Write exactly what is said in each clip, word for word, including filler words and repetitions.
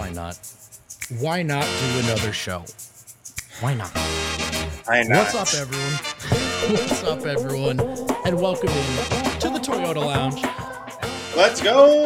why not? Why not do another show? Why not? Why not? What's up, everyone? What's up, everyone? And welcome in to the Toyota Lounge. Let's go!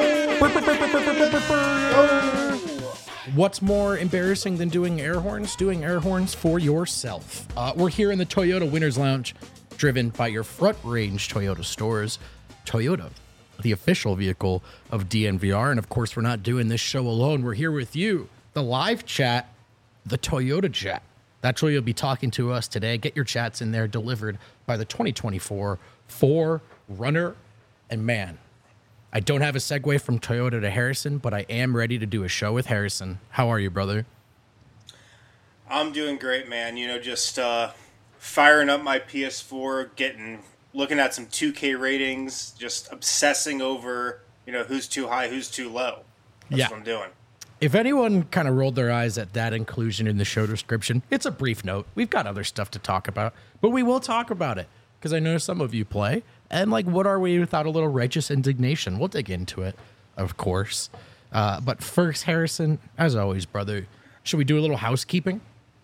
What's more embarrassing than doing air horns? Doing air horns for yourself. Uh, we're here in the Toyota Winners Lounge, driven by your front range Toyota stores. Toyota, the official vehicle of D N V R. And of course, we're not doing this show alone. We're here with you, the live chat, the Toyota chat. That's where you'll be talking to us today. Get your chats in there, delivered by the twenty twenty-four four Runner. And man, I don't have a segue from Toyota to Harrison, but I am ready to do a show with Harrison. How are you, brother? I'm doing great, man. You know, just uh, firing up my P S four, getting, looking at some two K ratings, just obsessing over, you know, who's too high, who's too low. That's Yeah. what I'm doing. If anyone kind of rolled their eyes at that inclusion in the show description, it's a brief note. We've got other stuff to talk about, but we will talk about it because I know some of you play. And like, what are we without a little righteous indignation? We'll dig into it, of course. Uh, but first, Harrison, as always, brother, should we do a little housekeeping?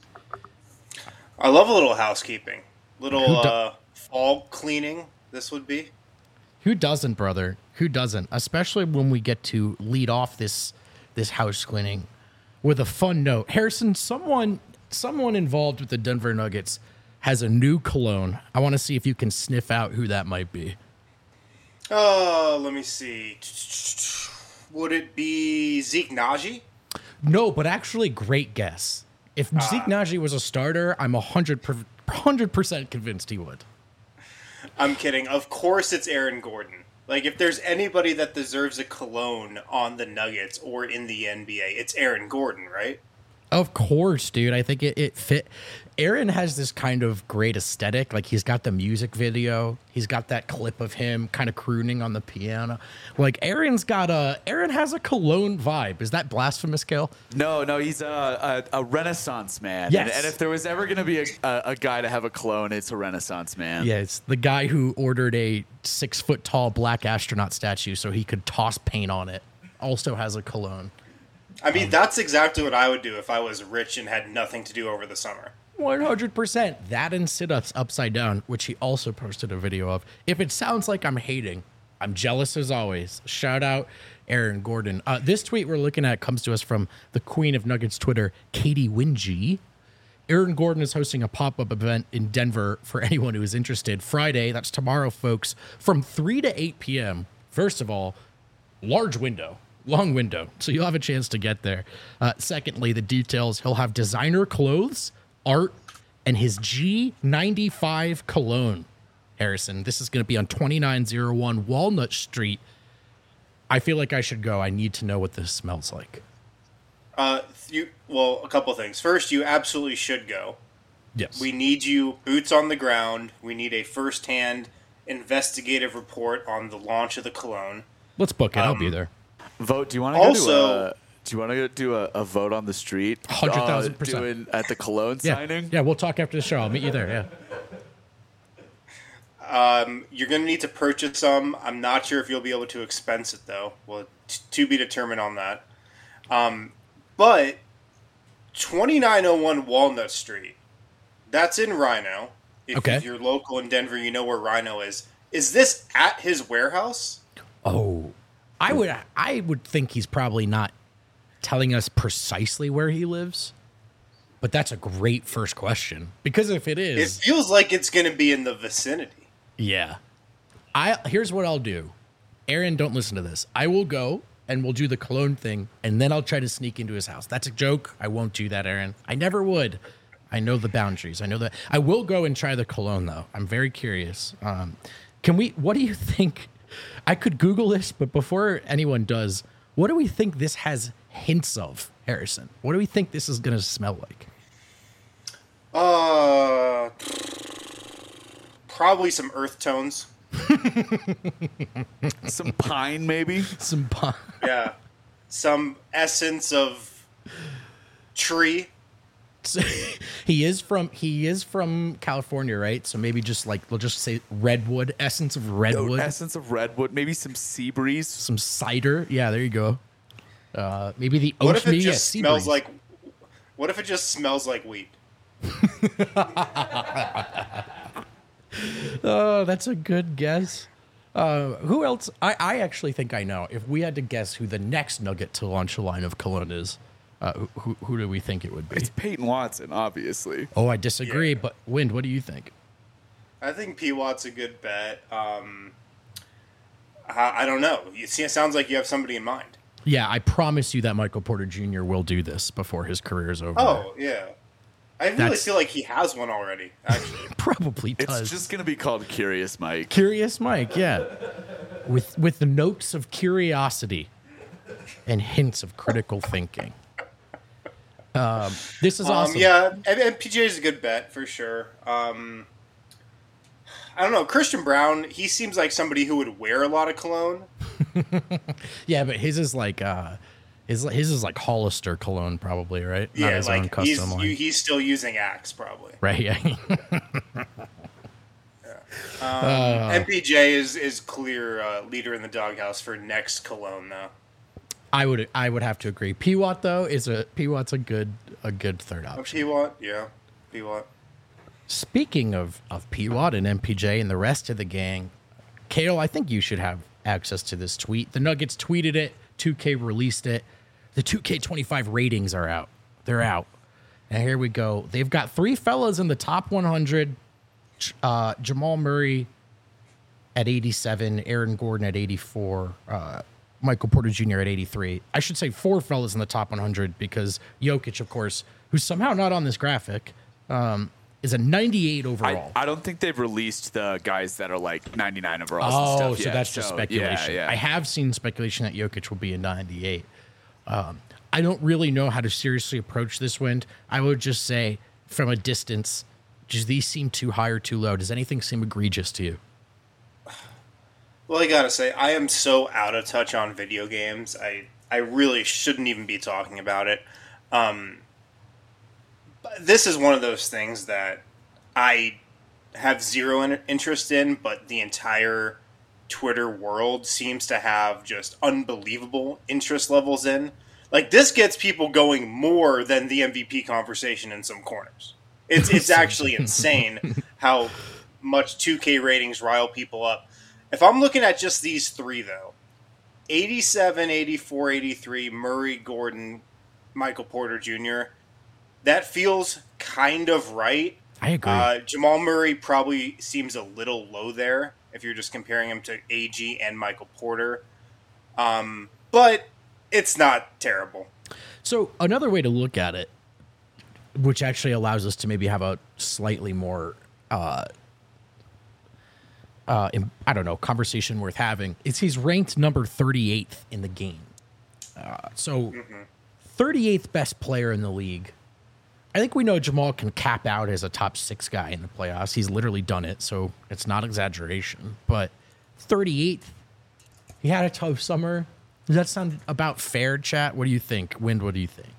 I love a little housekeeping. Little Who do- uh, fall cleaning, this would be. Who doesn't, brother? Who doesn't? Especially when we get to lead off this this house cleaning with a fun note. Harrison, someone someone involved with the Denver Nuggets has a new cologne. I want to see if you can sniff out who that might be. Oh, let me see. Would it be Zeke Naji? No, but actually, great guess. If Zeke Naji was a starter, I'm one hundred percent convinced he would. I'm kidding. Of course it's Aaron Gordon. Like, if there's anybody that deserves a cologne on the Nuggets or in the N B A, it's Aaron Gordon, right? Of course, dude. I think it, it fit. Aaron has this kind of great aesthetic. Like, he's got the music video. He's got that clip of him kind of crooning on the piano. Like, Aaron's got a... Aaron has a cologne vibe. Is that blasphemous, Kale? No, no, he's a, a, a Renaissance man. Yes. And, and if there was ever going to be a, a, a guy to have a clone, it's a Renaissance man. Yeah, it's the guy who ordered a six-foot-tall black astronaut statue so he could toss paint on it. Also has a cologne. I mean, that's exactly what I would do if I was rich and had nothing to do over the summer. one hundred percent. That and sit-ups upside down, which he also posted a video of. If it sounds like I'm hating, I'm jealous as always. Shout out Aaron Gordon. Uh, this tweet we're looking at comes to us from the Queen of Nuggets Twitter, Katie Wingy. Aaron Gordon is hosting a pop-up event in Denver for anyone who is interested. Friday, that's tomorrow, folks, from three to eight p.m. First of all, large window. Long window, so you'll have a chance to get there. Uh, secondly, the details, he'll have designer clothes, art, and his G ninety-five cologne. Harrison, this is going to be on twenty-nine oh one Walnut Street. I feel like I should go. I need to know what this smells like. Uh, you well, a couple things. First, you absolutely should go. Yes. We need you boots on the ground. We need a first-hand investigative report on the launch of the cologne. Let's book it. I'll be Um, there. Vote. Do you want to go Also- to a, do you want to go do a, a vote on the street? one hundred thousand percent. Uh, doing at the cologne Yeah. signing? Yeah, we'll talk after the show. I'll meet you there. Yeah. Um, you're going to need to purchase some. I'm not sure if you'll be able to expense it, though. Well, t- to be determined on that. Um, but twenty-nine oh one Walnut Street, that's in Rhino. If Okay. you're local in Denver, you know where Rhino is. Is this at his warehouse? Oh, I would I would think he's probably not telling us precisely where he lives, but that's a great first question because if it It is, feels like it's going to be in the vicinity. yeah. I here's what I'll do. Aaron, don't listen to this. I will go and we'll do the cologne thing, and then I'll try to sneak into his house. That's a joke. I won't do that, Aaron. I never would. I know the boundaries. I know that. I will go and try the cologne though. I'm very curious. Um, can we? What do you think? I could Google this, but before anyone does, what do we think this has hints of, Harrison? What do we think this is going to smell like? Uh, probably some earth tones. Some pine, maybe? Some pine. Yeah. Some essence of tree. he is from he is from California, right? So maybe just like we'll just say redwood, essence of redwood, Essence of redwood, maybe some sea breeze. some cider. Yeah, there you go. Uh, maybe the What if oat it me at just smells Seabreeze. like? What if it just smells like wheat? Oh, that's a good guess. Uh, who else? I, I actually think I know. If we had to guess who the next nugget to launch a line of cologne is, uh, who, who, who do we think it would be? It's Peyton Watson, obviously. Oh, I disagree. Yeah. But Wind, what do you think? I think P Watt's a good bet. Um, I, I don't know. You see, it sounds like you have somebody in mind. Yeah, I promise you that Michael Porter Junior will do this before his career is over. Oh yeah, I really That's- feel like he has one already. Actually, Probably does. It's just gonna be called Curious Mike. Curious Mike, yeah. With with the notes of curiosity and hints of critical thinking. Um, this is um, awesome. yeah, and, and P J is a good bet for sure. Um, I don't know, Christian Brown. He seems like somebody who would wear a lot of cologne. Yeah, but his is like uh his his is like Hollister cologne probably, right? Not Yeah, his own like custom he's line. you, he's still using Axe probably. Right, yeah. Um, M P J is is clear uh, leader in the doghouse for next cologne though. I would I would have to agree. P Watt though is a P Watt's a good a good third Oh, option. P Watt, yeah, P Watt. Speaking of, of P Watt and M P J and the rest of the gang, Kale, I think you should have access to this tweet. The Nuggets tweeted it, two K released it. The two K twenty-five ratings are out. They're out. And here we go. They've got three fellas in the top one hundred. Uh, Jamal Murray at eighty-seven, Aaron Gordon at eighty-four, uh, Michael Porter Junior at eighty-three. I should say four fellas in the top one hundred because Jokic, of course, who's somehow not on this graphic, um, is a ninety-eight overall. I, I don't think they've released the guys that are like ninety-nine overalls Oh, and stuff so yet, that's just so, speculation. Yeah, yeah. I have seen speculation that Jokic will be a ninety-eight. Um, I don't really know how to seriously approach this Wind. I would just say, from a distance, do these seem too high or too low? Does anything seem egregious to you? Well, I gotta say, I am so out of touch on video games. I I really shouldn't even be talking about it. Um, but this is one of those things that I have zero in- interest in, but the entire Twitter world seems to have just unbelievable interest levels in. Like, this gets people going more than the M V P conversation in some corners. It's it's actually insane how much two K ratings rile people up. If I'm looking at just these three, though, eighty-seven, eighty-four, eighty-three, Murray, Gordon, Michael Porter Junior, that feels kind of right. I agree. Uh, Jamal Murray probably seems a little low there if you're just comparing him to A G and Michael Porter. Um, but it's not terrible. So another way to look at it, which actually allows us to maybe have a slightly more, uh, uh, im- I don't know, conversation worth having, is he's ranked number thirty-eighth in the game. Uh, so thirty-eighth best player in the league. I think we know Jamal can cap out as a top six guy in the playoffs. He's literally done it, so it's not exaggeration. But thirty-eighth, he had a tough summer. Does that sound about fair, chat? What do you think? Wind, what do you think?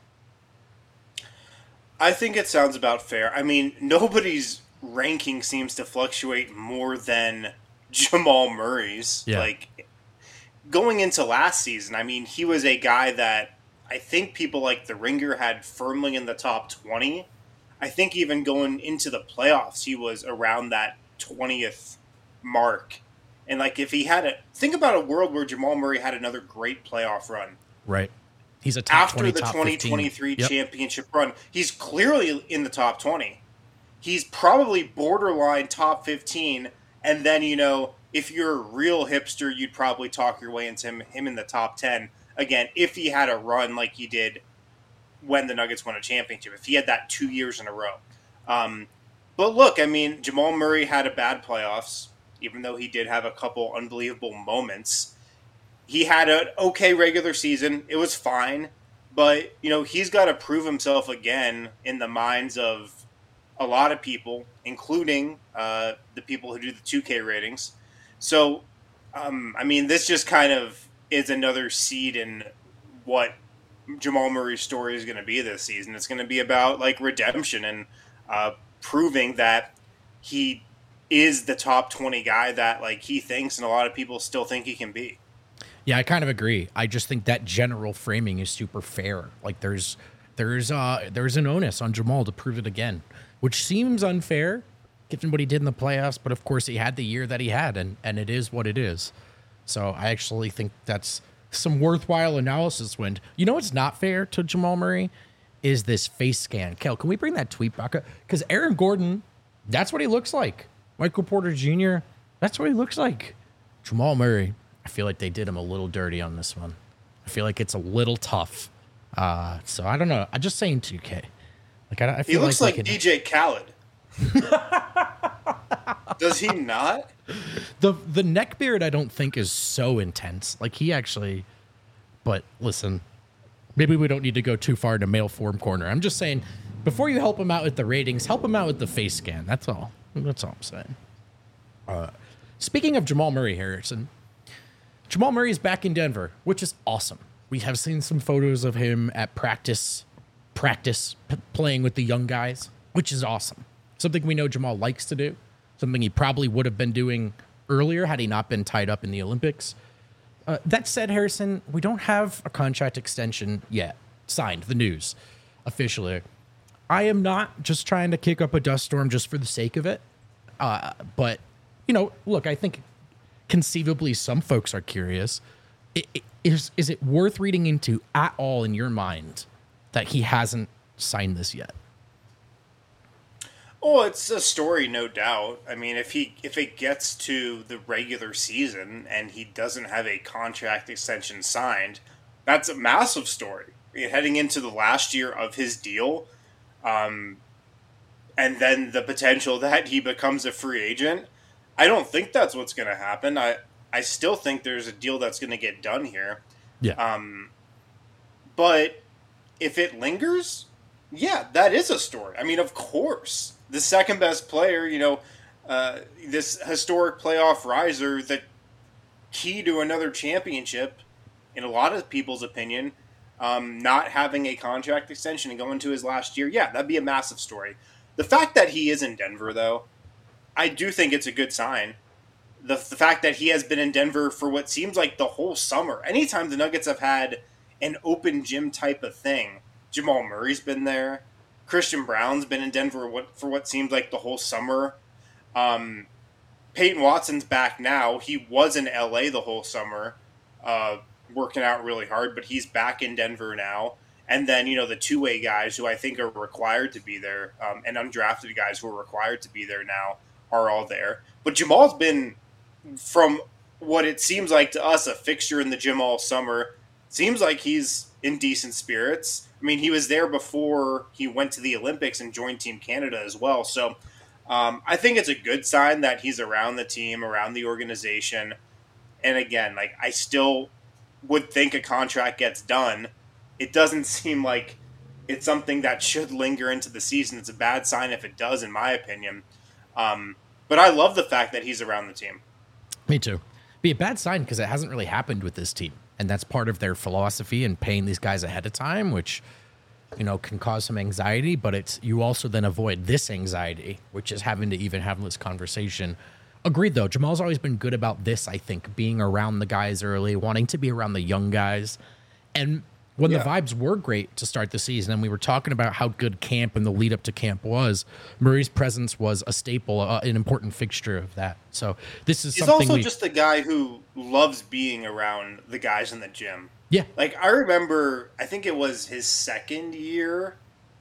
I think it sounds about fair. I mean, nobody's ranking seems to fluctuate more than Jamal Murray's. Yeah. Like, going into last season, I mean, he was a guy that I think people like The Ringer had firmly in the top twenty. I think even going into the playoffs, he was around that twentieth mark. And, like, if he had a... Think about a world where Jamal Murray had another great playoff run. Right. He's a top After twenty, the top twenty fifteen. twenty-three Yep. championship run, he's clearly in the top twenty. He's probably borderline top fifteen. And then, you know, if you're a real hipster, you'd probably talk your way into him, him in the top ten. Again, if he had a run like he did when the Nuggets won a championship, if he had that two years in a row. Um, but look, I mean, Jamal Murray had a bad playoffs, even though he did have a couple unbelievable moments. He had an okay regular season. It was fine. But, you know, he's got to prove himself again in the minds of a lot of people, including uh, the people who do the two K ratings. So, um, I mean, this just kind of is another seed in what Jamal Murray's story is going to be this season. It's going to be about, like, redemption and uh, proving that he is the top twenty guy that, like, he thinks and a lot of people still think he can be. Yeah, I kind of agree. I just think that general framing is super fair. Like there's there's uh there's an onus on Jamal to prove it again, which seems unfair given what he did in the playoffs, but of course he had the year that he had, and and it is what it is. So I actually think that's some worthwhile analysis. When you know what's not fair to Jamal Murray is this face scan. Kel, can we bring that tweet back up? Because Aaron Gordon, that's what he looks like. Michael Porter Junior, that's what he looks like. Jamal Murray, I feel like they did him a little dirty on this one. I feel like it's a little tough. Uh, so I don't know. I'm just saying two K. Like I, I feel he looks like, like can... D J Khaled. Does he not? The the neck beard I don't think is so intense. Like he actually, but listen, maybe we don't need to go too far to male form corner. I'm just saying, before you help him out with the ratings, help him out with the face scan. That's all. That's all I'm saying. Uh, speaking of Jamal Murray, Harrison, Jamal Murray is back in Denver, which is awesome. We have seen some photos of him at practice, practice p- playing with the young guys, which is awesome. Something we know Jamal likes to do. Something he probably would have been doing earlier had he not been tied up in the Olympics. Uh, that said, Harrison, we don't have a contract extension yet signed, the news, officially. I am not just trying to kick up a dust storm just for the sake of it. Uh, but, you know, look, I think conceivably some folks are curious. It, it, is, is it worth reading into at all in your mind that he hasn't signed this yet? Oh, it's a story, no doubt. I mean, if he if it gets to the regular season and he doesn't have a contract extension signed, that's a massive story. I mean, heading into the last year of his deal, um, and then the potential that he becomes a free agent, I don't think that's what's going to happen. I, I still think there's a deal that's going to get done here. Yeah. Um, but if it lingers, yeah, that is a story. I mean, of course. The second best player, you know, uh, this historic playoff riser, that key to another championship, in a lot of people's opinion, um, not having a contract extension and going to his last year, yeah, that'd be a massive story. The fact that he is in Denver, though, I do think it's a good sign. The, the fact that he has been in Denver for what seems like the whole summer. Anytime the Nuggets have had an open gym type of thing, Jamal Murray's been there. Christian Brown's been in Denver what, for what seems like the whole summer. Um, Peyton Watson's back now. He was in L A the whole summer, uh, working out really hard, but he's back in Denver now. And then, you know, the two-way guys who I think are required to be there, um, and undrafted guys who are required to be there now are all there. But Jamal's been, from what it seems like to us, a fixture in the gym all summer. Seems like he's in decent spirits. I mean, he was there before he went to the Olympics and joined Team Canada as well. So um, I think it's a good sign that he's around the team, around the organization. And again, like I still would think a contract gets done. It doesn't seem like it's something that should linger into the season. It's a bad sign if it does, in my opinion. Um, but I love the fact that he's around the team. Me too. Be a bad sign because it hasn't really happened with this team. And that's part of their philosophy and paying these guys ahead of time, which, you know, can cause some anxiety. But it's you also then avoid this anxiety, which is having to even have this conversation. Agreed, though. Jamal's always been good about this, I think, being around the guys early, wanting to be around the young guys. And when yeah. the vibes were great to start the season, and we were talking about how good camp and the lead up to camp was, Murray's presence was a staple, uh, an important fixture of that. So this is He's something also we, just a guy who loves being around the guys in the gym. Yeah. Like, I remember, I think it was his second year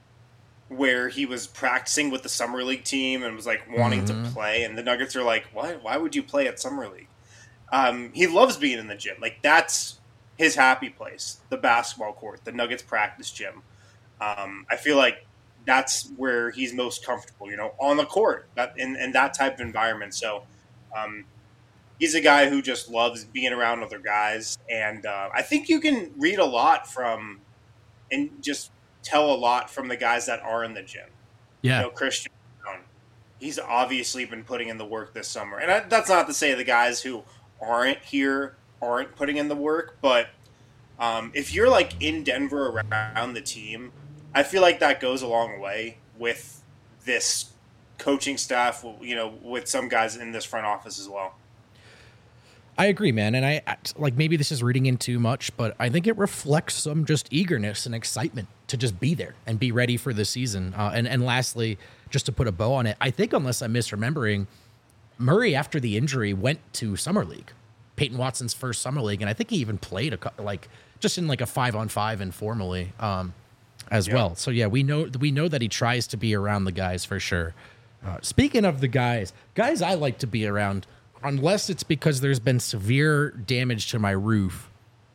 where he was practicing with the Summer League team and was, like, wanting mm-hmm. to play. And the Nuggets are like, why, why would you play at Summer League? Um, he loves being in the gym. Like, that's his happy place, the basketball court, the Nuggets practice gym. Um, I feel like that's where he's most comfortable, you know, on the court, that in, in that type of environment. So um, he's a guy who just loves being around other guys. And uh, I think you can read a lot from and just tell a lot from the guys that are in the gym. Yeah. You know, Christian Brown, he's obviously been putting in the work this summer. And I, that's not to say the guys who aren't here aren't putting in the work, but um, if you're like in Denver around the team, I feel like that goes a long way with this coaching staff, you know, with some guys in this front office as well. I agree, man. And I like maybe this is reading in too much, but I think it reflects some just eagerness and excitement to just be there and be ready for the season. Uh, and, and lastly, just to put a bow on it, I think unless I'm misremembering, Murray, after the injury, went to Summer League, Peyton Watson's first Summer League. And I think he even played a cou- like just in like a five on five informally um, as yeah. well. So, yeah, we know we know that he tries to be around the guys for sure. Uh, speaking of the guys, guys I like to be around, unless it's because there's been severe damage to my roof,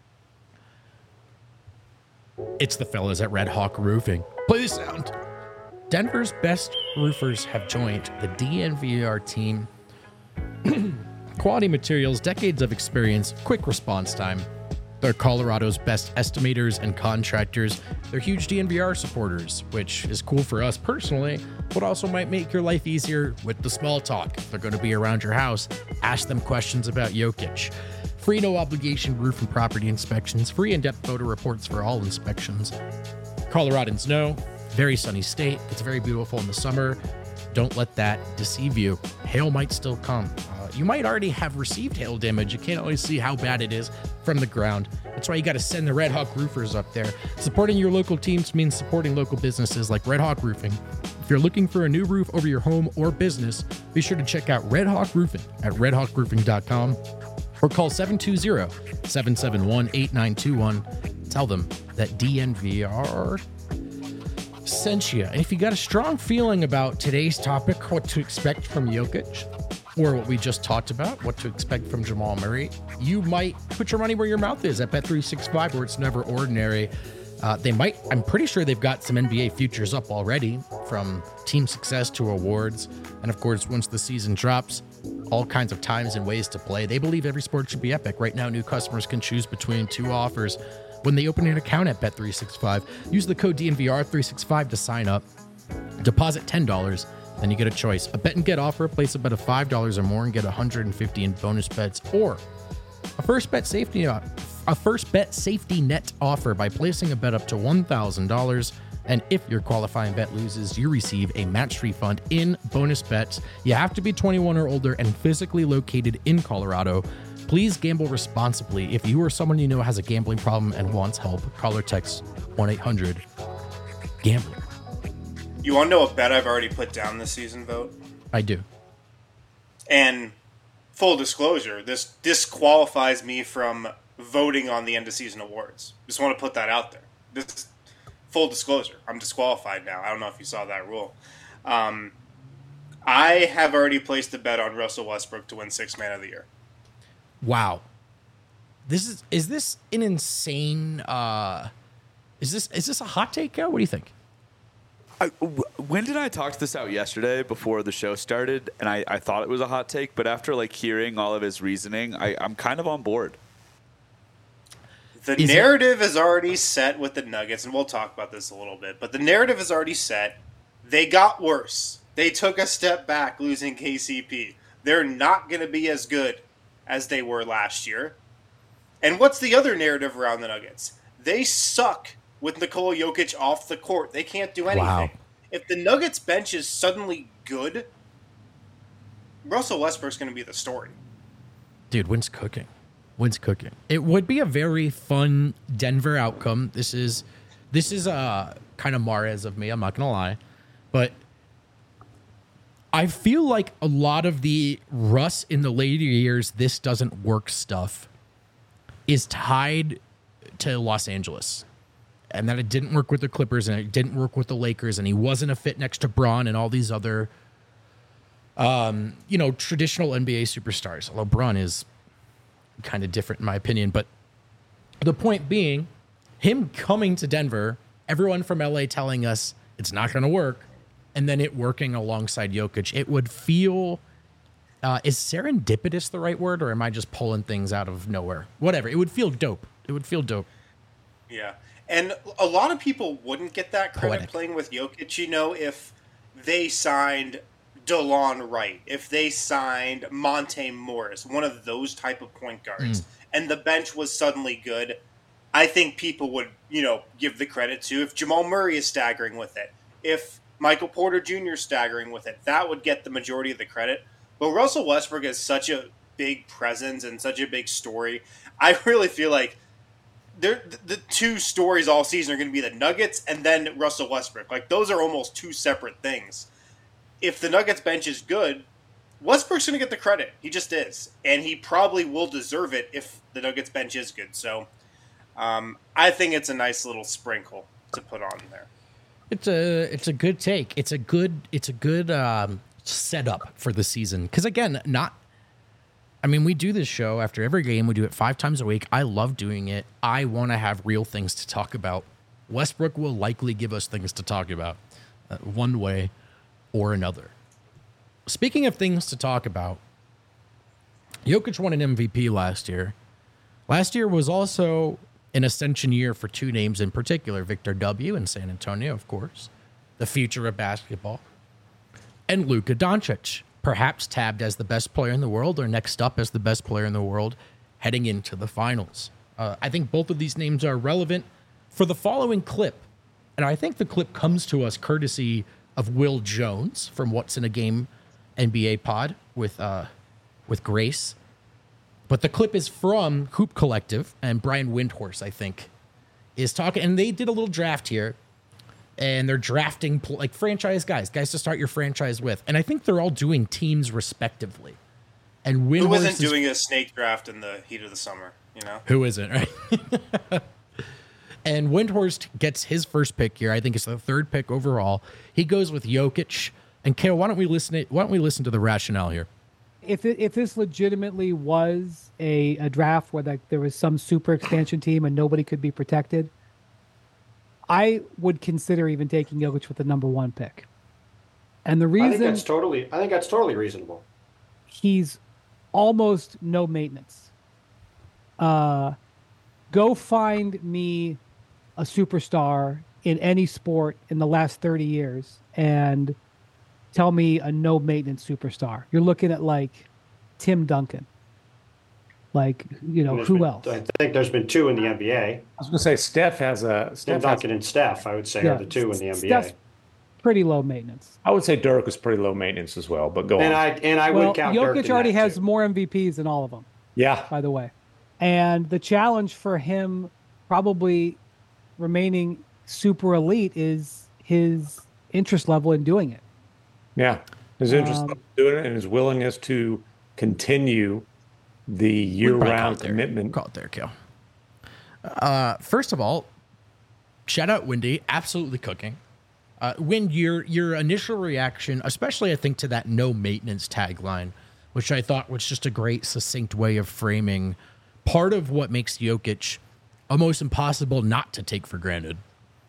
it's the fellas at Red Hawk Roofing. Play the sound. Denver's best roofers have joined the D N V R team. Quality materials, decades of experience, quick response time. They're Colorado's best estimators and contractors. They're huge D N V R supporters, which is cool for us personally, but also might make your life easier with the small talk. If they're going to be around your house, ask them questions about Jokic. Free no obligation roof and property inspections, free in-depth photo reports for all inspections. Coloradans know, very sunny state. It's very beautiful in the summer. Don't let that deceive you. Hail might still come. Uh, you might already have received hail damage. You can't always see how bad it is from the ground. That's why you got to send the Red Hawk roofers up there. Supporting your local teams means supporting local businesses like Red Hawk Roofing. If you're looking for a new roof over your home or business, be sure to check out Red Hawk Roofing at red hawk roofing dot com or call seven two zero, seven seven one, eight nine two one. Tell them that D N V R sent you. And if you got a strong feeling about today's topic, what to expect from Jokic, or what we just talked about, what to expect from Jamal Murray, you might put your money where your mouth is at Bet three sixty-five, where it's never ordinary. Uh, they might, I'm pretty sure they've got some N B A futures up already, from team success to awards. And of course, once the season drops, all kinds of times and ways to play. They believe every sport should be epic. Right now, new customers can choose between two offers when they open an account at Bet three sixty-five. Use the code D N V R three sixty-five to sign up. Deposit ten dollars, then you get a choice. A bet and get offer, place a bet of five dollars or more and get one hundred fifty in bonus bets, or a first bet safety a first bet safety net offer by placing a bet up to one thousand dollars. And if your qualifying bet loses, you receive a match refund in bonus bets. You have to be twenty-one or older and physically located in Colorado. Please gamble responsibly. If you or someone you know has a gambling problem and wants help, call or text one eight hundred gambler. You want to know a bet I've already put down this season, Vote? I do. And full disclosure, this disqualifies me from voting on the end of season awards. Just want to put that out there. This full disclosure, I'm disqualified now. I don't know if you saw that rule. Um, I have already placed a bet on Russell Westbrook to win Sixth Man of the Year. Wow. This is is this an insane uh is this is this a hot take, Joe? What do you think? I, w- when did I talk this out yesterday before the show started? And I, I thought it was a hot take, but after like hearing all of his reasoning, I, I'm kind of on board. The is narrative it- is already set with the Nuggets, and we'll talk about this a little bit, but the narrative is already set. They got worse. They took a step back losing K C P. They're not going to be as good as they were last year. And what's the other narrative around the Nuggets? They suck with Nikola Jokic off the court. They can't do anything. Wow. If the Nuggets bench is suddenly good, Russell Westbrook's going to be the story. Dude, when's cooking? When's cooking? It would be a very fun Denver outcome. This is this is uh, kind of Mahrez of me, I'm not going to lie. But I feel like a lot of the Russ in the later years, this doesn't work stuff is tied to Los Angeles. And that it didn't work with the Clippers and it didn't work with the Lakers and he wasn't a fit next to Bron and all these other, um, you know, traditional N B A superstars. Although Bron is kind of different in my opinion. But the point being, him coming to Denver, everyone from L A telling us it's not going to work, and then it working alongside Jokic, it would feel, uh, is serendipitous the right word, or am I just pulling things out of nowhere? Whatever. It would feel dope. It would feel dope. Yeah. And a lot of people wouldn't get that credit Poetic. playing with Jokic, you know, if they signed DeLon Wright, if they signed Monte Morris, one of those type of point guards, mm. and the bench was suddenly good, I think people would, you know, give the credit to. If Jamal Murray is staggering with it, if Michael Porter Junior is staggering with it, that would get the majority of the credit. But Russell Westbrook is such a big presence and such a big story. I really feel like they're, the two stories all season are going to be the Nuggets and then Russell Westbrook. Like, those are almost two separate things. If the Nuggets bench is good, Westbrook's going to get the credit. He just is. And he probably will deserve it if the Nuggets bench is good. So um, I think it's a nice little sprinkle to put on there. It's a it's a good take. It's a good it's a good um, setup for the season. Because again, not. I mean, we do this show after every game. We do it five times a week. I love doing it. I want to have real things to talk about. Westbrook will likely give us things to talk about, uh, one way or another. Speaking of things to talk about, Jokic won an M V P last year. Last year was also an ascension year for two names in particular, Victor W. in San Antonio, of course, the future of basketball, and Luka Doncic, perhaps tabbed as the best player in the world or next up as the best player in the world heading into the finals. Uh, I think both of these names are relevant for the following clip, and I think the clip comes to us courtesy of Will Jones from What's in a Game N B A pod with uh, with Grace. But the clip is from Hoop Collective, and Brian Windhorst, I think, is talking. And they did a little draft here, and they're drafting like franchise guys, guys to start your franchise with. And I think they're all doing teams respectively. And Windhorst who wasn't is, doing a snake draft in the heat of the summer, you know? Who isn't, right? And Windhorst gets his first pick here. I think it's the third pick overall. He goes with Jokic. And Kale, why don't we listen? To, why don't we listen to the rationale here? If it, if this legitimately was a, a draft where like there was some super expansion team and nobody could be protected, I would consider even taking Jokic with the number one pick. And the reason I think that's totally, I think that's totally reasonable. He's almost no maintenance. Uh, go find me a superstar in any sport in the last thirty years and tell me a no maintenance superstar. You're looking at like Tim Duncan. Like, you know, who been, else? I think there's been two in the N B A. I was going to say Steph has a Steph Tim Duncan has, and Steph, I would say, Yeah, are the two in the N B A. Steph's pretty low maintenance. I would say Dirk is pretty low maintenance as well, but go And on. I and I well, would count Dirk Jokic in already that, has too. more M V Ps than all of them, yeah. by the way. And the challenge for him probably remaining super elite is his interest level in doing it. Yeah. His interest Um, in doing it and his willingness to continue the year-round commitment. Call it there, Kale. Uh, first of all, shout out Wendy, absolutely cooking. Uh, when your your initial reaction, especially I think to that no maintenance tagline, which I thought was just a great succinct way of framing part of what makes Jokic almost impossible not to take for granted.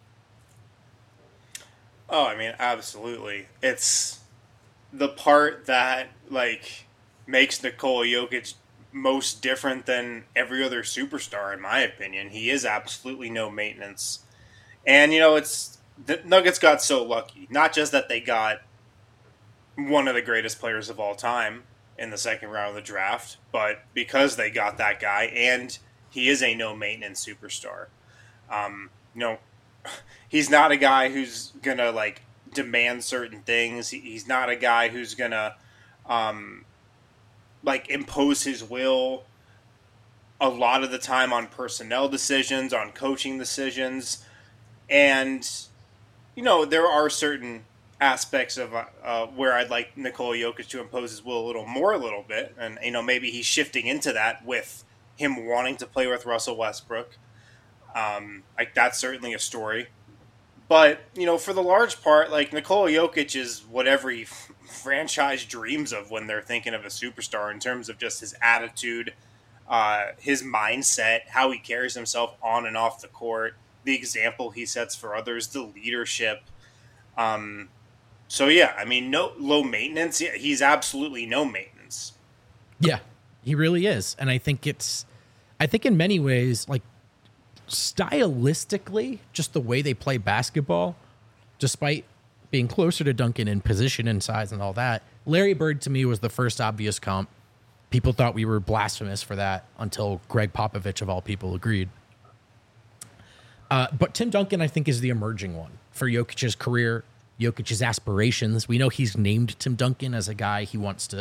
Oh, I mean, absolutely. It's the part that, like, makes Nikola Jokic most different than every other superstar, in my opinion. He is absolutely no maintenance. And, you know, it's the Nuggets got so lucky. Not just that they got one of the greatest players of all time in the second round of the draft, but because they got that guy, and he is a no-maintenance superstar. Um, you know, he's not a guy who's going to, like, demand certain things. He, he's not a guy who's going to, um, like, impose his will a lot of the time on personnel decisions, on coaching decisions. And, you know, there are certain aspects of uh, where I'd like Nikola Jokic to impose his will a little more, a little bit. And, you know, maybe he's shifting into that with him wanting to play with Russell Westbrook. Um, like, that's certainly a story. But, you know, for the large part, like, Nikola Jokic is what every f- franchise dreams of when they're thinking of a superstar in terms of just his attitude, uh, his mindset, how he carries himself on and off the court, the example he sets for others, the leadership. Um, so, yeah, I mean, no low maintenance. Yeah, he's absolutely no maintenance. Yeah, he really is. And I think it's, I think in many ways, like, stylistically, just the way they play basketball, despite being closer to Duncan in position and size and all that, Larry Bird to me was the first obvious comp. People thought we were blasphemous for that until Greg Popovich, of all people, agreed. Uh, but Tim Duncan, I think, is the emerging one for Jokic's career, Jokic's aspirations. We know he's named Tim Duncan as a guy he wants to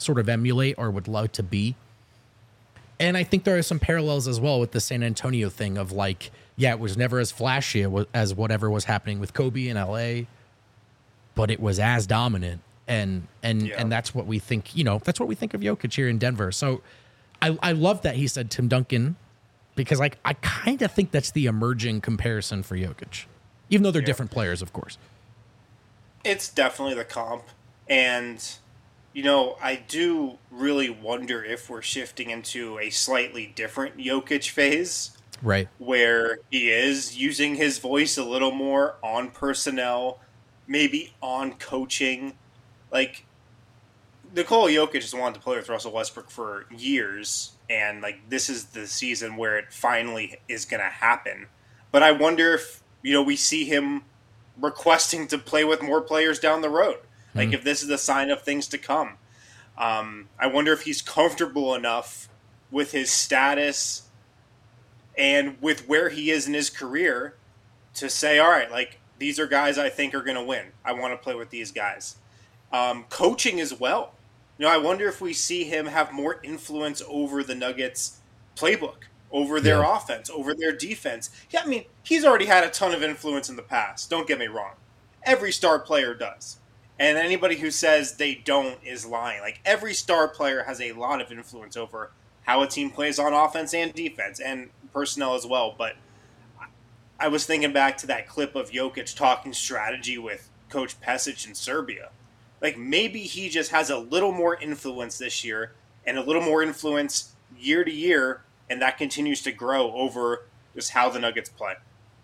sort of emulate or would love to be. And I think there are some parallels as well with the San Antonio thing of like, yeah, it was never as flashy as whatever was happening with Kobe in L A, but it was as dominant. And and yeah. and that's what we think, you know, that's what we think of Jokic here in Denver. So I, I love that he said Tim Duncan, because like I kind of think that's the emerging comparison for Jokic, even though they're yeah. different players, of course. It's definitely the comp. And, you know, I do really wonder if we're shifting into a slightly different Jokic phase. Right. Where he is using his voice a little more on personnel, maybe on coaching. Like, Nikola Jokic has wanted to play with Russell Westbrook for years, and, like, this is the season where it finally is going to happen. But I wonder if, you know, we see him requesting to play with more players down the road. Like, mm-hmm. if this is a sign of things to come. Um, I wonder if he's comfortable enough with his status and with where he is in his career to say, all right, like, these are guys I think are going to win. I want to play with these guys. Um, coaching as well. You know, I wonder if we see him have more influence over the Nuggets playbook, over their yeah. offense, over their defense. Yeah, I mean, he's already had a ton of influence in the past. Don't get me wrong. Every star player does. And anybody who says they don't is lying. Like, every star player has a lot of influence over how a team plays on offense and defense and personnel as well. But I was thinking back to that clip of Jokic talking strategy with Coach Pesic in Serbia. Like, maybe he just has a little more influence this year and a little more influence year to year, and that continues to grow over just how the Nuggets play.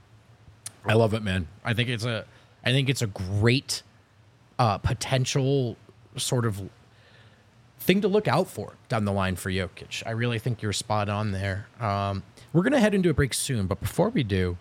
I love it, man. I think it's a, I think it's a great uh, potential sort of thing to look out for down the line for Jokic. I really think you're spot on there. Um, we're gonna head into a break soon, but before we do,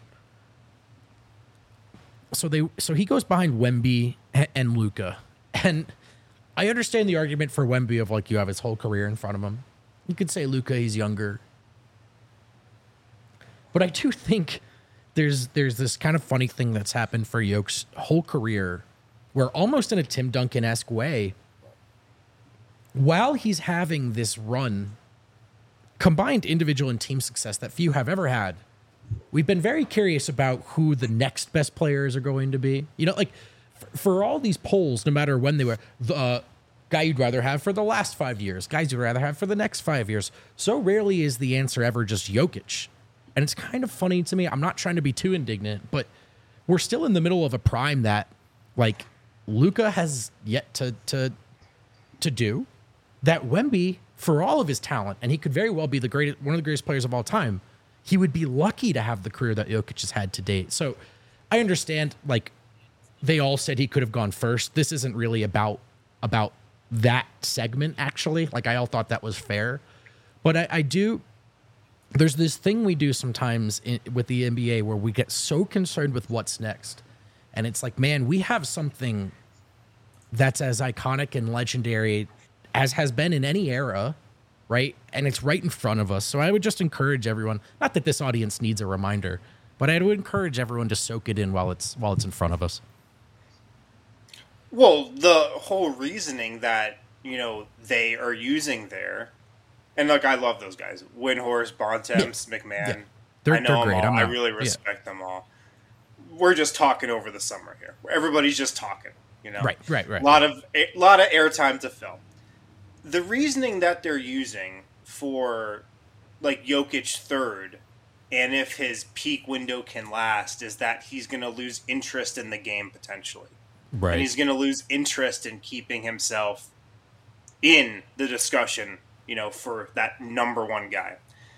so they, so he goes behind Wemby and Luka. And I understand the argument for Wemby of like you have his whole career in front of him. You could say Luka, he's younger. But I do think there's there's this kind of funny thing that's happened for Jokic's whole career where almost in a Tim Duncan-esque way, while he's having this run, combined individual and team success that few have ever had, we've been very curious about who the next best players are going to be. You know, like, for all these polls, no matter when they were, the uh, guy you'd rather have for the last five years, guys you'd rather have for the next five years, so rarely is the answer ever just Jokic. And it's kind of funny to me. I'm not trying to be too indignant, but we're still in the middle of a prime that, like, Luka has yet to to to do, that Wemby, for all of his talent, and he could very well be the greatest, one of the greatest players of all time, he would be lucky to have the career that Jokic has had to date. So I understand, like, they all said he could have gone first. This isn't really about about that segment, actually. Like, I all thought that was fair. But I, I do... There's this thing we do sometimes in, with the N B A where we get so concerned with what's next. And it's like, man, we have something that's as iconic and legendary as has been in any era, right? And it's right in front of us. So I would just encourage everyone, not that this audience needs a reminder, but I would encourage everyone to soak it in while it's while it's in front of us. Well, the whole reasoning that, you know, they are using there, and look, I love those guys. Windhorst, Bontemps, yeah. McMahon. Yeah. They're, I know they're great. them all. I'm I really respect yeah. them all. We're just talking over the summer here. Everybody's just talking, you know? Right, right, right. A lot of, a lot of airtime to fill. The reasoning that they're using for, like, Jokic third, and if his peak window can last, is that he's going to lose interest in the game potentially. Right. And he's going to lose interest in keeping himself in the discussion, you know, for that number one guy.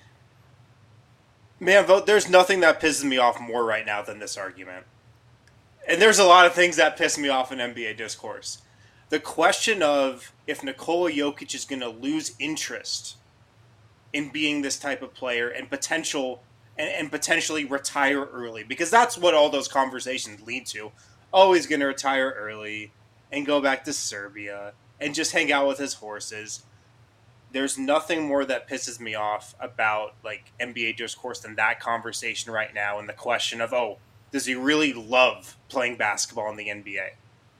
Man, there's nothing that pisses me off more right now than this argument. And there's a lot of things that piss me off in N B A discourse. The question of if Nikola Jokic is going to lose interest in being this type of player and potential and, and potentially retire early, because that's what all those conversations lead to. Oh, he's going to retire early and go back to Serbia and just hang out with his horses. There's nothing more that pisses me off about, like, N B A discourse than that conversation right now, and the question of, oh, does he really love playing basketball in the N B A?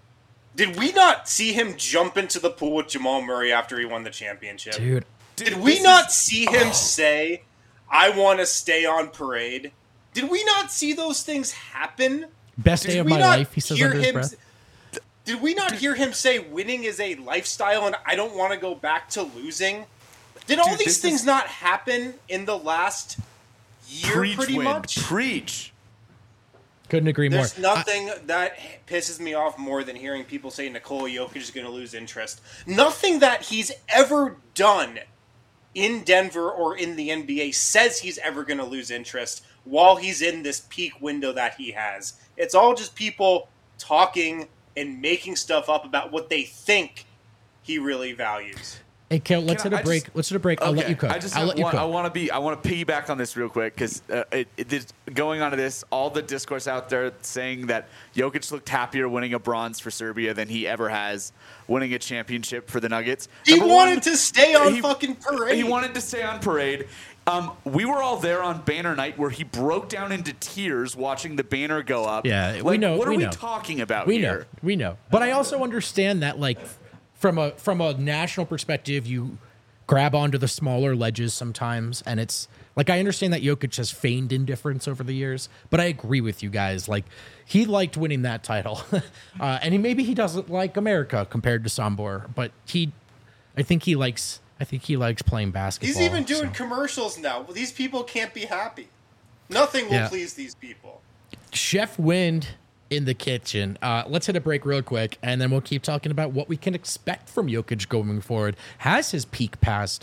Did we not see him jump into the pool with Jamal Murray after he won the championship? Dude. Did we not see him say, I want to stay on parade? Did we not see those things happen? Best Did day of we my not life, he says hear under his him breath. s- Did we not hear him say winning is a lifestyle and I don't want to go back to losing? Did all Dude, these this things is- not happen in the last year Preach, pretty Wind. much? Preach. Couldn't agree more. There's nothing that pisses me off more than hearing people say Nikola Jokic is going to lose interest. Nothing that he's ever done in Denver or in the N B A says he's ever going to lose interest while he's in this peak window that he has. It's all just people talking and making stuff up about what they think he really values. Hey, Kel, let's Can hit I- a I break. just- let's hit a break. I'll let Okay, you cook. I just I'll have let you one, cook. I want to be. I want to piggyback on this real quick because uh, it, it, it, going on to this, all the discourse out there saying that Jokic looked happier winning a bronze for Serbia than he ever has winning a championship for the Nuggets. He Number wanted one, to stay on he- fucking parade. He wanted to stay on parade. Um, we were all there on banner night where he broke down into tears watching the banner go up. Yeah, we Like, know- What are we we know. talking about we here? know, we know. But I also understand that, like, from a from a national perspective, you grab onto the smaller ledges sometimes, and it's like I understand that Jokic has feigned indifference over the years, but I agree with you guys. Like, he liked winning that title, uh, and he, maybe he doesn't like America compared to Sombor, but he, I think he likes. I think he likes playing basketball. He's even doing so. commercials now. Well, these people can't be happy. Nothing will Yeah. please these people. Chef Wind in the kitchen. Uh, let's hit a break real quick, and then we'll keep talking about what we can expect from Jokic going forward. Has his peak passed?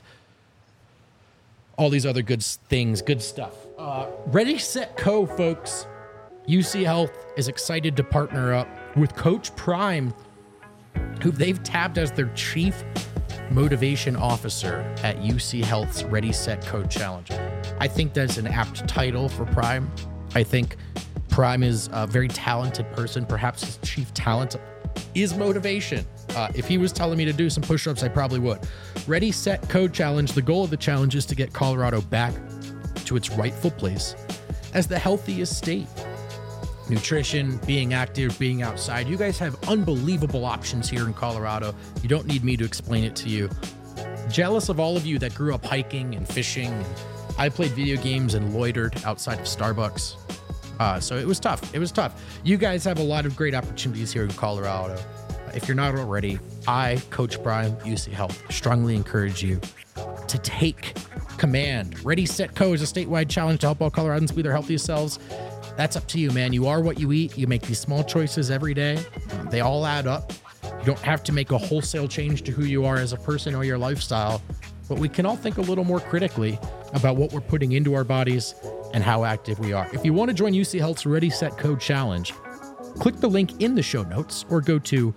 All these other good s- things, good stuff. Uh, Ready, Set, Co, folks. U C Health is excited to partner up with Coach Prime, who they've tabbed as their chief motivation officer at U C Health's Ready, Set, Co Challenge. I think that's an apt title for Prime. I think Prime is a very talented person. Perhaps his chief talent is motivation. Uh, if he was telling me to do some push-ups, I probably would. Ready, Set, Co Challenge. The goal of the challenge is to get Colorado back to its rightful place as the healthiest state. Nutrition, being active, being outside. You guys have unbelievable options here in Colorado. You don't need me to explain it to you. Jealous of all of you that grew up hiking and fishing. And I played video games and loitered outside of Starbucks. Uh, so it was tough. It was tough. You guys have a lot of great opportunities here in Colorado. If you're not already, I, Coach Brian, U C Health, strongly encourage you to take command. Ready, Set, Co is a statewide challenge to help all Coloradans be their healthiest selves. That's up to you, man. You are what you eat. You make these small choices every day. They all add up. You don't have to make a wholesale change to who you are as a person or your lifestyle, but we can all think a little more critically about what we're putting into our bodies and how active we are. If you want to join U C Health's Ready, Set, Co challenge, click the link in the show notes or go to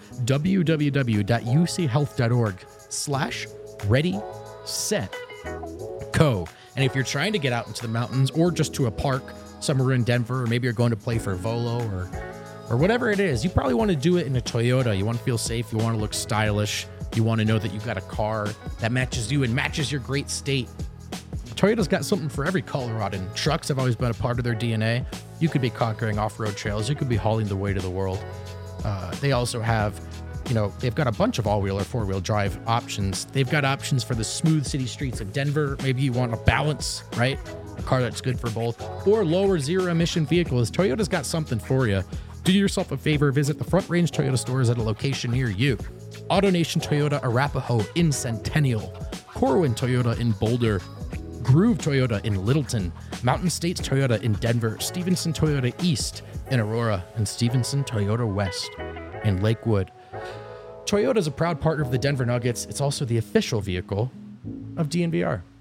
www.uchealth.org slash ready, set, co. And if you're trying to get out into the mountains or just to a park somewhere in Denver, or maybe you're going to play for Volo or or whatever it is, you probably want to do it in a Toyota. You want to feel safe. You want to look stylish. You want to know that you've got a car that matches you and matches your great state. Toyota's got something for every Coloradan. Trucks have always been a part of their D N A. You could be conquering off-road trails. You could be hauling the weight of the world. Uh, they also have, you know, they've got a bunch of all-wheel or four-wheel drive options. They've got options for the smooth city streets of Denver. Maybe you want a balance, right? A car that's good for both. Or lower zero-emission vehicles. Toyota's got something for you. Do yourself a favor. Visit the Front Range Toyota stores at a location near you. AutoNation Toyota Arapahoe in Centennial. Corwin Toyota in Boulder. Groove Toyota in Littleton, Mountain States Toyota in Denver, Stevenson Toyota East in Aurora, and Stevenson Toyota West in Lakewood. Toyota is a proud partner of the Denver Nuggets. It's also the official vehicle of D N V R.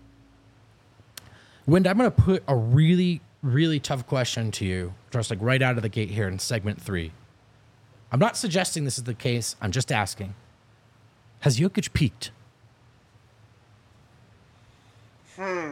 Wind, I'm going to put a really, really tough question to you, just like right out of the gate here in segment three. I'm not suggesting this is the case. I'm just asking. Has Jokic peaked? Hmm.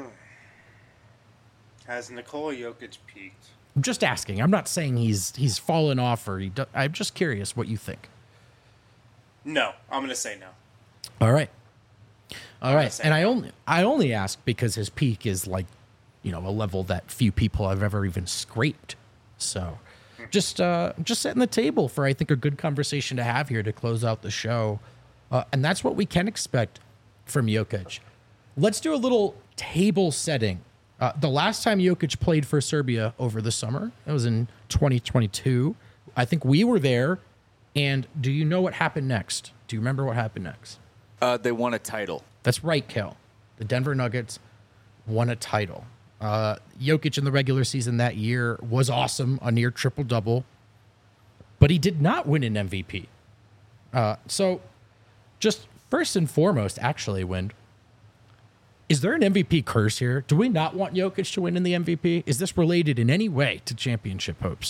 Has Nikola Jokic peaked? I'm just asking. I'm not saying he's he's fallen off or he. Do, I'm just curious what you think. No, I'm gonna say no. All right, all right. say And I only I only ask because his peak is like, you know, a level that few people have ever even scraped. So, just uh, just setting the table for, I think, a good conversation to have here to close out the show. Uh, and that's what we can expect from Jokic. Let's do a little table setting. Uh, the last time Jokic played for Serbia over the summer, it was in twenty twenty-two. I think we were there. And do you know what happened next? Do you remember what happened next? Uh, they won a title. That's right, Kel. The Denver Nuggets won a title. Uh, Jokic in the regular season that year was awesome, a near triple-double. But he did not win an M V P. Uh, so just first and foremost, actually, Wind, is there an M V P curse here? Do we not want Jokic to win in the M V P? Is this related in any way to championship hopes?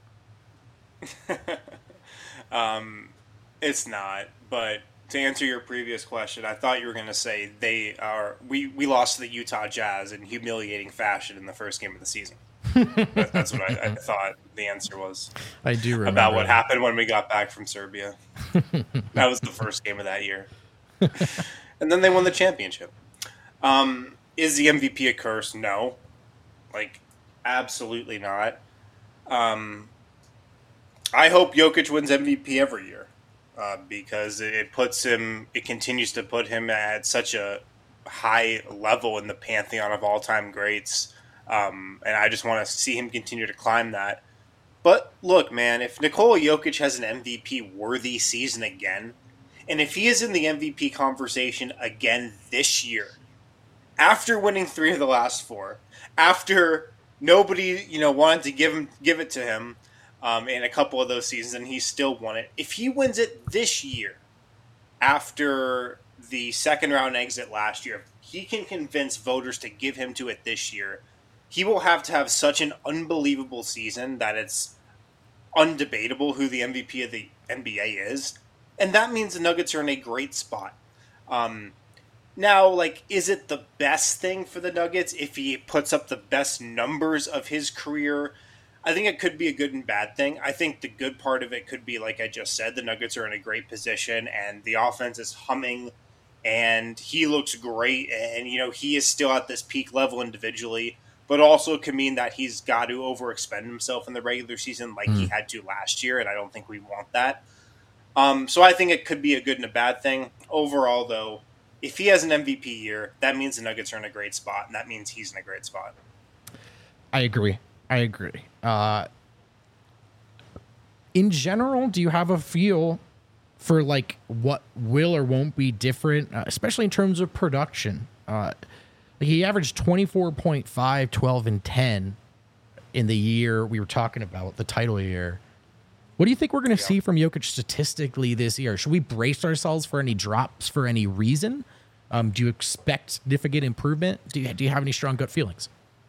um, it's not. But to answer your previous question, I thought you were going to say they are. We, we lost to the Utah Jazz in humiliating fashion in the first game of the season. That, that's what I, I thought the answer was. I do remember about what that. happened when we got back from Serbia. That was the first game of that year, and then they won the championship. Um, is the M V P a curse? No, like absolutely not. Um, I hope Jokic wins M V P every year uh, because it puts him. It continues to put him at such a high level in the pantheon of all-time greats, um, and I just want to see him continue to climb that. But look, man, if Nikola Jokic has an M V P worthy season again, and if he is in the M V P conversation again this year, after winning three of the last four, after nobody, you know, wanted to give him give it to him um, in a couple of those seasons, and he still won it. If he wins it this year, after the second round exit last year, if he can convince voters to give him to it this year, he will have to have such an unbelievable season that it's undebatable who the M V P of the N B A is, and that means the Nuggets are in a great spot. Um, Now, like, is it the best thing for the Nuggets if he puts up the best numbers of his career? I think it could be a good and bad thing. I think the good part of it could be, like I just said, the Nuggets are in a great position and the offense is humming and he looks great and, you know, he is still at this peak level individually, but also it could mean that he's got to overexpend himself in the regular season like mm. he had to last year, and I don't think we want that. Um, so I think it could be a good and a bad thing. Overall, though, if he has an M V P year, that means the Nuggets are in a great spot, and that means he's in a great spot. I agree. I agree. Uh, in general, do you have a feel for like what will or won't be different, uh, especially in terms of production? Uh, he averaged twenty-four point five, twelve, and ten in the year we were talking about, the title year. What do you think we're going to yeah. see from Jokic statistically this year? Should we brace ourselves for any drops for any reason? Um, do you expect significant improvement? Do you, do you have any strong gut feelings?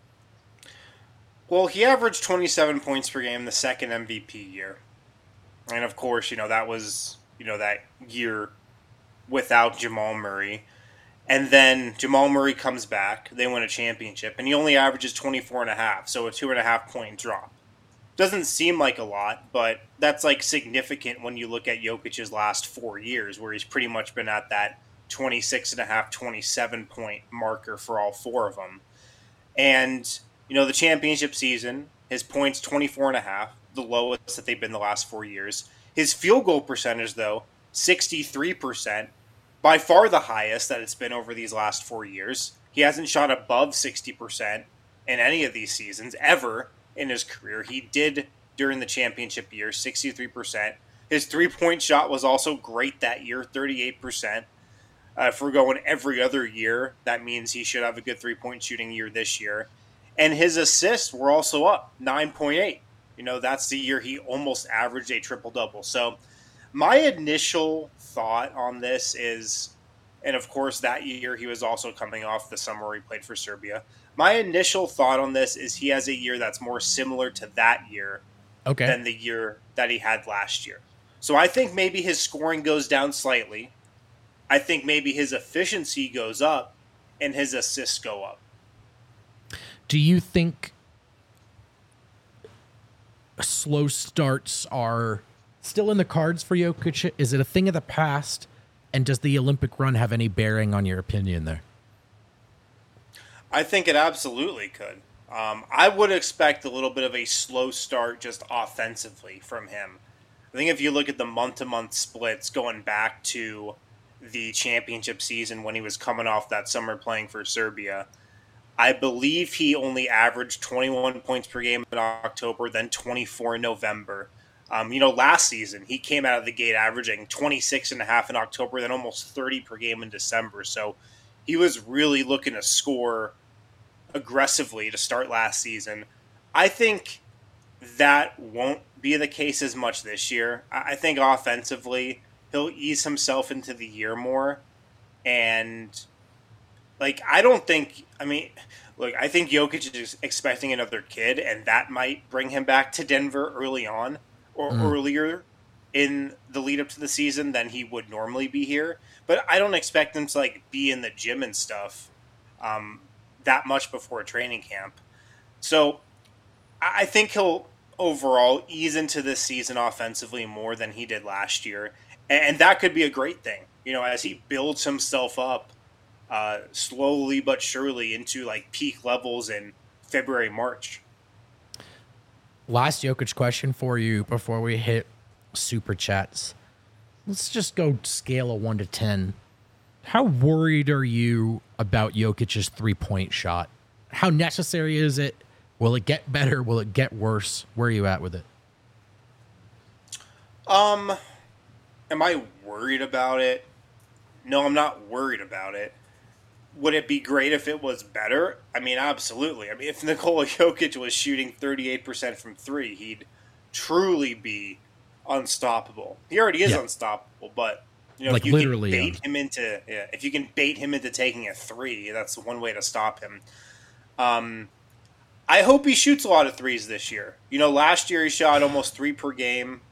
Well, he averaged twenty-seven points per game the second M V P year. And, of course, you know, that was, you know, that year without Jamal Murray. And then Jamal Murray comes back. They win a championship. And he only averages twenty-four and a half, so a two and a half point drop. Doesn't seem like a lot, but that's like significant when you look at Jokic's last four years, where he's pretty much been at that twenty-six and a half, twenty-seven point marker for all four of them. And, you know, the championship season, his points twenty-four and a half, the lowest that they've been the last four years. His field goal percentage, though, sixty-three percent, by far the highest that it's been over these last four years. He hasn't shot above sixty percent in any of these seasons ever in his career. He did during the championship year, sixty-three percent. His three-point shot was also great that year, thirty-eight percent. Uh, if we're going every other year, that means he should have a good three-point shooting year this year. And his assists were also up, nine point eight. You know, that's the year he almost averaged a triple-double. So my initial thought on this is, and of course that year he was also coming off the summer where he played for Serbia. My initial thought on this is he has a year that's more similar to that year okay. than the year that he had last year. So I think maybe his scoring goes down slightly. I think maybe his efficiency goes up and his assists go up. Do you think slow starts are still in the cards for Jokic? Is it a thing of the past? And does the Olympic run have any bearing on your opinion there? I think it absolutely could. Um, I would expect a little bit of a slow start just offensively from him. I think if you look at the month-to-month splits going back to the championship season when he was coming off that summer playing for Serbia, I believe he only averaged twenty-one points per game in October, then twenty-four in November. Um, you know, last season, he came out of the gate averaging twenty-six and a half in October, then almost thirty per game in December. So he was really looking to score aggressively to start last season. I think that won't be the case as much this year. I think offensively, he'll ease himself into the year more. And, like, I don't think, I mean, look, I think Jokic is expecting another kid, and that might bring him back to Denver early on or mm. earlier in the lead up to the season than he would normally be here. But I don't expect him to, like, be in the gym and stuff um, that much before training camp. So I think he'll overall ease into this season offensively more than he did last year. And that could be a great thing, you know, as he builds himself up uh, slowly but surely into like peak levels in February, March. Last Jokic question for you before we hit super chats. Let's just go scale a one to ten. How worried are you about Jokic's three-point shot? How necessary is it? Will it get better? Will it get worse? Where are you at with it? Um, am I worried about it? No, I'm not worried about it. Would it be great if it was better? I mean, absolutely. I mean, if Nikola Jokic was shooting thirty-eight percent from three, he'd truly be unstoppable. He already is yeah. unstoppable, but you know, like if you literally can bait un- him into, yeah, if you can bait him into taking a three, that's one way to stop him. Um. I hope he shoots a lot of threes this year. You know, last year he shot almost three per game.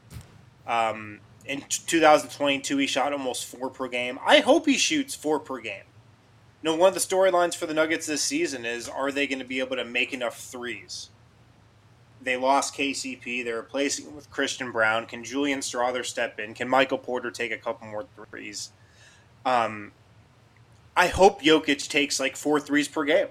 Um, in two thousand twenty-two, he shot almost four per game. I hope he shoots four per game. You know, one of the storylines for the Nuggets this season is, are they going to be able to make enough threes? They lost K C P. They're replacing him with Christian Brown. Can Julian Strawther step in? Can Michael Porter take a couple more threes? Um, I hope Jokic takes like four threes per game.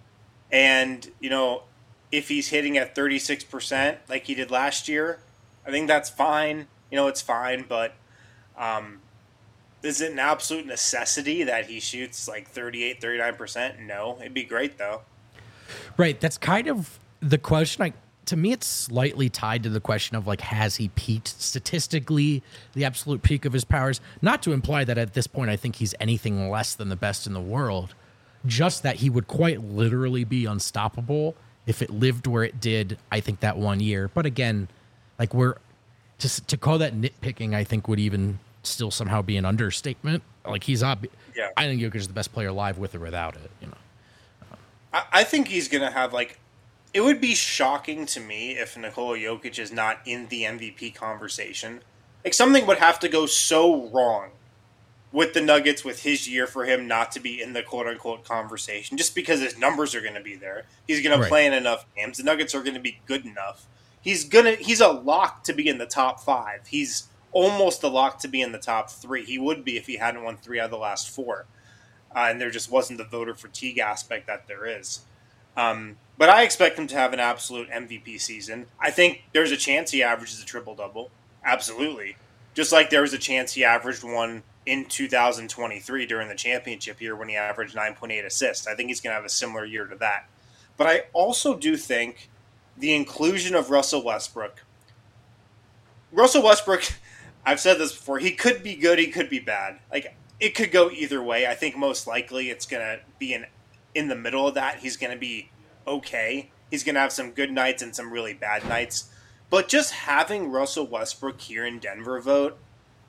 And, you know, if he's hitting at thirty-six percent like he did last year, I think that's fine. You know, it's fine, but um, is it an absolute necessity that he shoots like thirty-eight, thirty-nine percent? No. It'd be great, though. Right. That's kind of the question. Like, to me, it's slightly tied to the question of, like, has he peaked statistically, the absolute peak of his powers? Not to imply that at this point I think he's anything less than the best in the world, just that he would quite literally be unstoppable if it lived where it did, I think, that one year. But again, like, we're to to call that nitpicking, I think would even still somehow be an understatement. Like, he's ob- yeah. I think Jokic is the best player alive with or without it. You know, I, I think he's gonna have like. It would be shocking to me if Nikola Jokic is not in the M V P conversation. Like, something would have to go so wrong with the Nuggets, with his year, for him not to be in the quote-unquote conversation, just because his numbers are going to be there. He's going right. to play in enough games. The Nuggets are going to be good enough. He's gonna. He's a lock to be in the top five. He's almost a lock to be in the top three. He would be if he hadn't won three out of the last four. Uh, and there just wasn't the voter fatigue aspect that there is. Um, but I expect him to have an absolute M V P season. I think there's a chance he averages a triple-double. Absolutely. Just like there was a chance he averaged one in two thousand twenty-three during the championship year when he averaged nine point eight assists. I think he's going to have a similar year to that. But I also do think the inclusion of Russell Westbrook. Russell Westbrook, I've said this before, he could be good, he could be bad. Like, it could go either way. I think most likely it's going to be in, in the middle of that. He's going to be okay. He's going to have some good nights and some really bad nights. But just having Russell Westbrook here in Denver vote,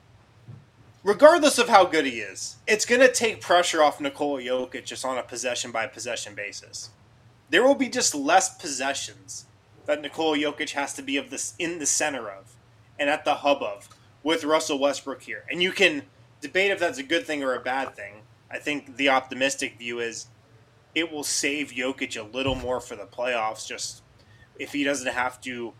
regardless of how good he is, it's going to take pressure off Nikola Jokic just on a possession-by-possession basis. There will be just less possessions that Nikola Jokic has to be of this in the center of and at the hub of with Russell Westbrook here. And you can debate if that's a good thing or a bad thing. I think the optimistic view is it will save Jokic a little more for the playoffs, just if he doesn't have to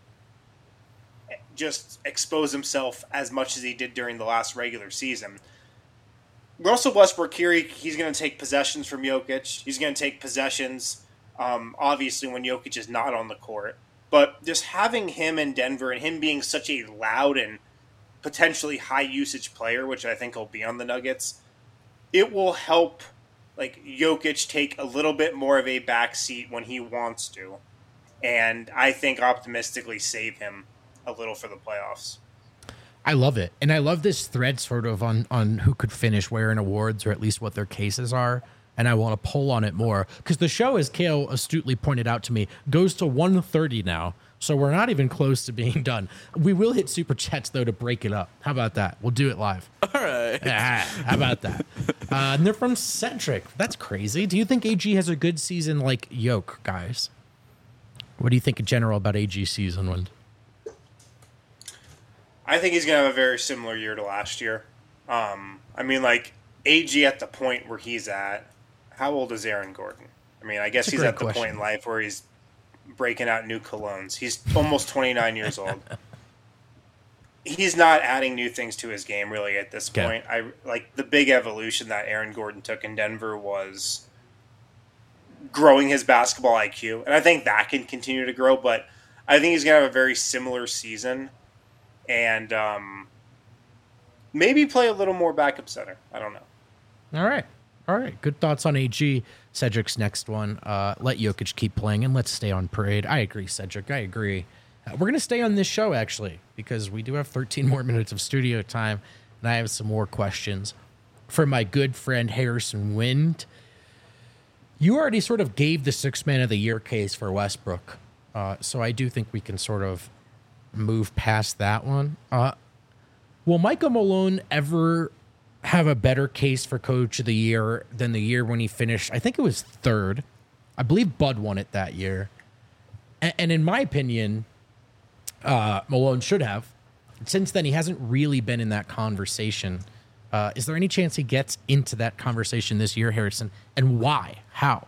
just expose himself as much as he did during the last regular season. Russell Westbrook here, he, he's going to take possessions from Jokic. He's going to take possessions Um, obviously, when Jokic is not on the court, but just having him in Denver and him being such a loud and potentially high usage player, which I think will be on the Nuggets, it will help like Jokic take a little bit more of a back seat when he wants to, and I think optimistically save him a little for the playoffs. I love it. And I love this thread sort of on, on who could finish where in awards, or at least what their cases are. And I want to pull on it more because the show, as Kale astutely pointed out to me, goes to one thirty now. So we're not even close to being done. We will hit super chats, though, to break it up. How about that? We'll do it live. All right. Ah, how about that? Uh, and they're from Centric. That's crazy. Do you think A G has a good season like Yoke, guys? What do you think in general about A G's season, Wind? I think he's going to have a very similar year to last year. Um, I mean, like, A G at the point where he's at, how old is Aaron Gordon? I mean, I guess That's a he's great at the question. point in life where he's breaking out new colognes. He's almost twenty-nine years old. He's not adding new things to his game, really, at this Okay. point. I like the big evolution that Aaron Gordon took in Denver was growing his basketball I Q. And I think that can continue to grow, but I think he's going to have a very similar season. And um, maybe play a little more backup center. I don't know. All right. All right. Good thoughts on A G. Cedric's next one. Uh, let Jokic keep playing and let's stay on parade. I agree, Cedric. I agree. Uh, we're going to stay on this show, actually, because we do have thirteen more minutes of studio time, and I have some more questions for my good friend Harrison Wind. You already sort of gave the six man of the year case for Westbrook, uh, so I do think we can sort of move past that one. Uh, will Michael Malone ever have a better case for coach of the year than the year when he finished? I think it was third. I believe Bud won it that year. And, and in my opinion, uh, Malone should have. Since then, he hasn't really been in that conversation. Uh, is there any chance he gets into that conversation this year, Harrison? And why? How?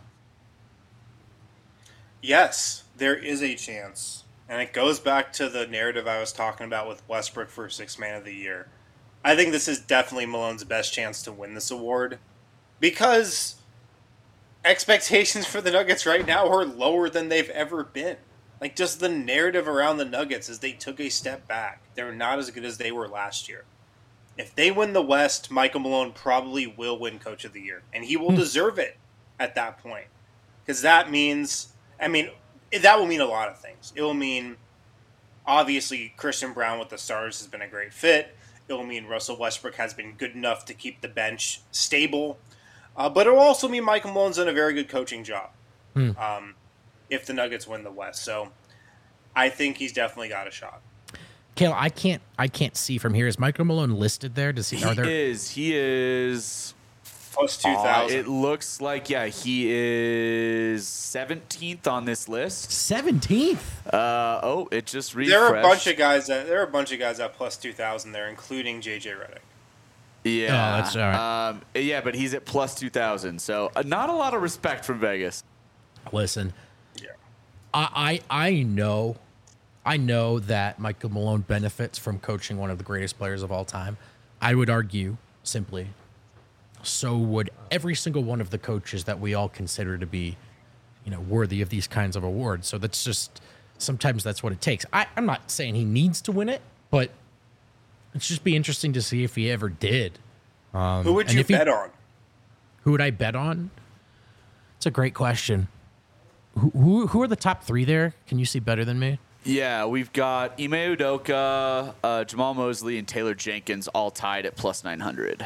Yes, there is a chance. And it goes back to the narrative I was talking about with Westbrook for six man of the year. I think this is definitely Malone's best chance to win this award because expectations for the Nuggets right now are lower than they've ever been. Like, just the narrative around the Nuggets is they took a step back. They're not as good as they were last year. If they win the West, Michael Malone probably will win Coach of the Year. And he will deserve it at that point. Because that means, I mean, that will mean a lot of things. It will mean, obviously, Christian Brown with the Stars has been a great fit. It will mean Russell Westbrook has been good enough to keep the bench stable. Uh, but it will also mean Michael Malone's done a very good coaching job Hmm. um, if the Nuggets win the West. So I think he's definitely got a shot. Kale, I can't I can't see from here. Is Michael Malone listed there? Does he, He are there is. He is. Plus two Uh, thousand. it looks like, yeah, he is seventeenth on this list. seventeenth? Uh, oh, it just refreshed. there are a bunch of guys that there are a bunch of guys at plus two thousand there, including J J Redick. Yeah. Oh, that's all right. Um, yeah, but he's at plus two thousand. So uh, not a lot of respect from Vegas. Listen, Yeah. I, I I know, I know that Michael Malone benefits from coaching one of the greatest players of all time. I would argue simply, so would every single one of the coaches that we all consider to be, you know, worthy of these kinds of awards. So that's just sometimes that's what it takes. I, I'm not saying he needs to win it, but it's just be interesting to see if he ever did. Um, Who would and you if he- bet on? Who would I bet on? It's a great question. Who, who who are the top three there? Can you see better than me? Yeah, we've got Ime Udoka, uh, Jamal Mosley, and Taylor Jenkins all tied at plus nine hundred.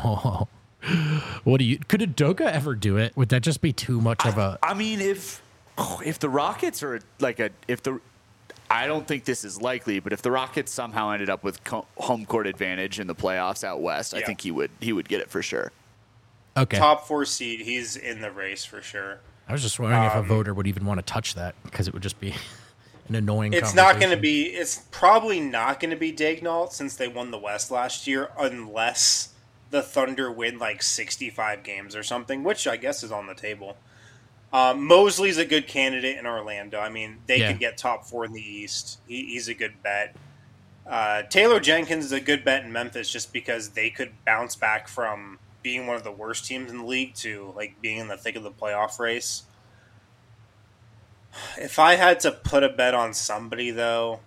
What do you? Could Udoka ever do it? Would that just be too much of a? I mean, if if the Rockets are like a if the I don't think this is likely, but if the Rockets somehow ended up with co- home court advantage in the playoffs out west, I Yeah. think he would he would get it for sure. Okay. Top four seed, he's in the race for sure. I was just wondering if a um, voter would even want to touch that because it would just be an annoying. It's not going to conversation. be. It's probably not going to be Daignault since they won the West last year, unless the Thunder win like sixty-five games or something, which I guess is on the table. Um, Mosley's a good candidate in Orlando. I mean, they Yeah. could get top four in the East. He, he's a good bet. Uh, Taylor Jenkins is a good bet in Memphis just because they could bounce back from being one of the worst teams in the league to like being in the thick of the playoff race. If I had to put a bet on somebody, though,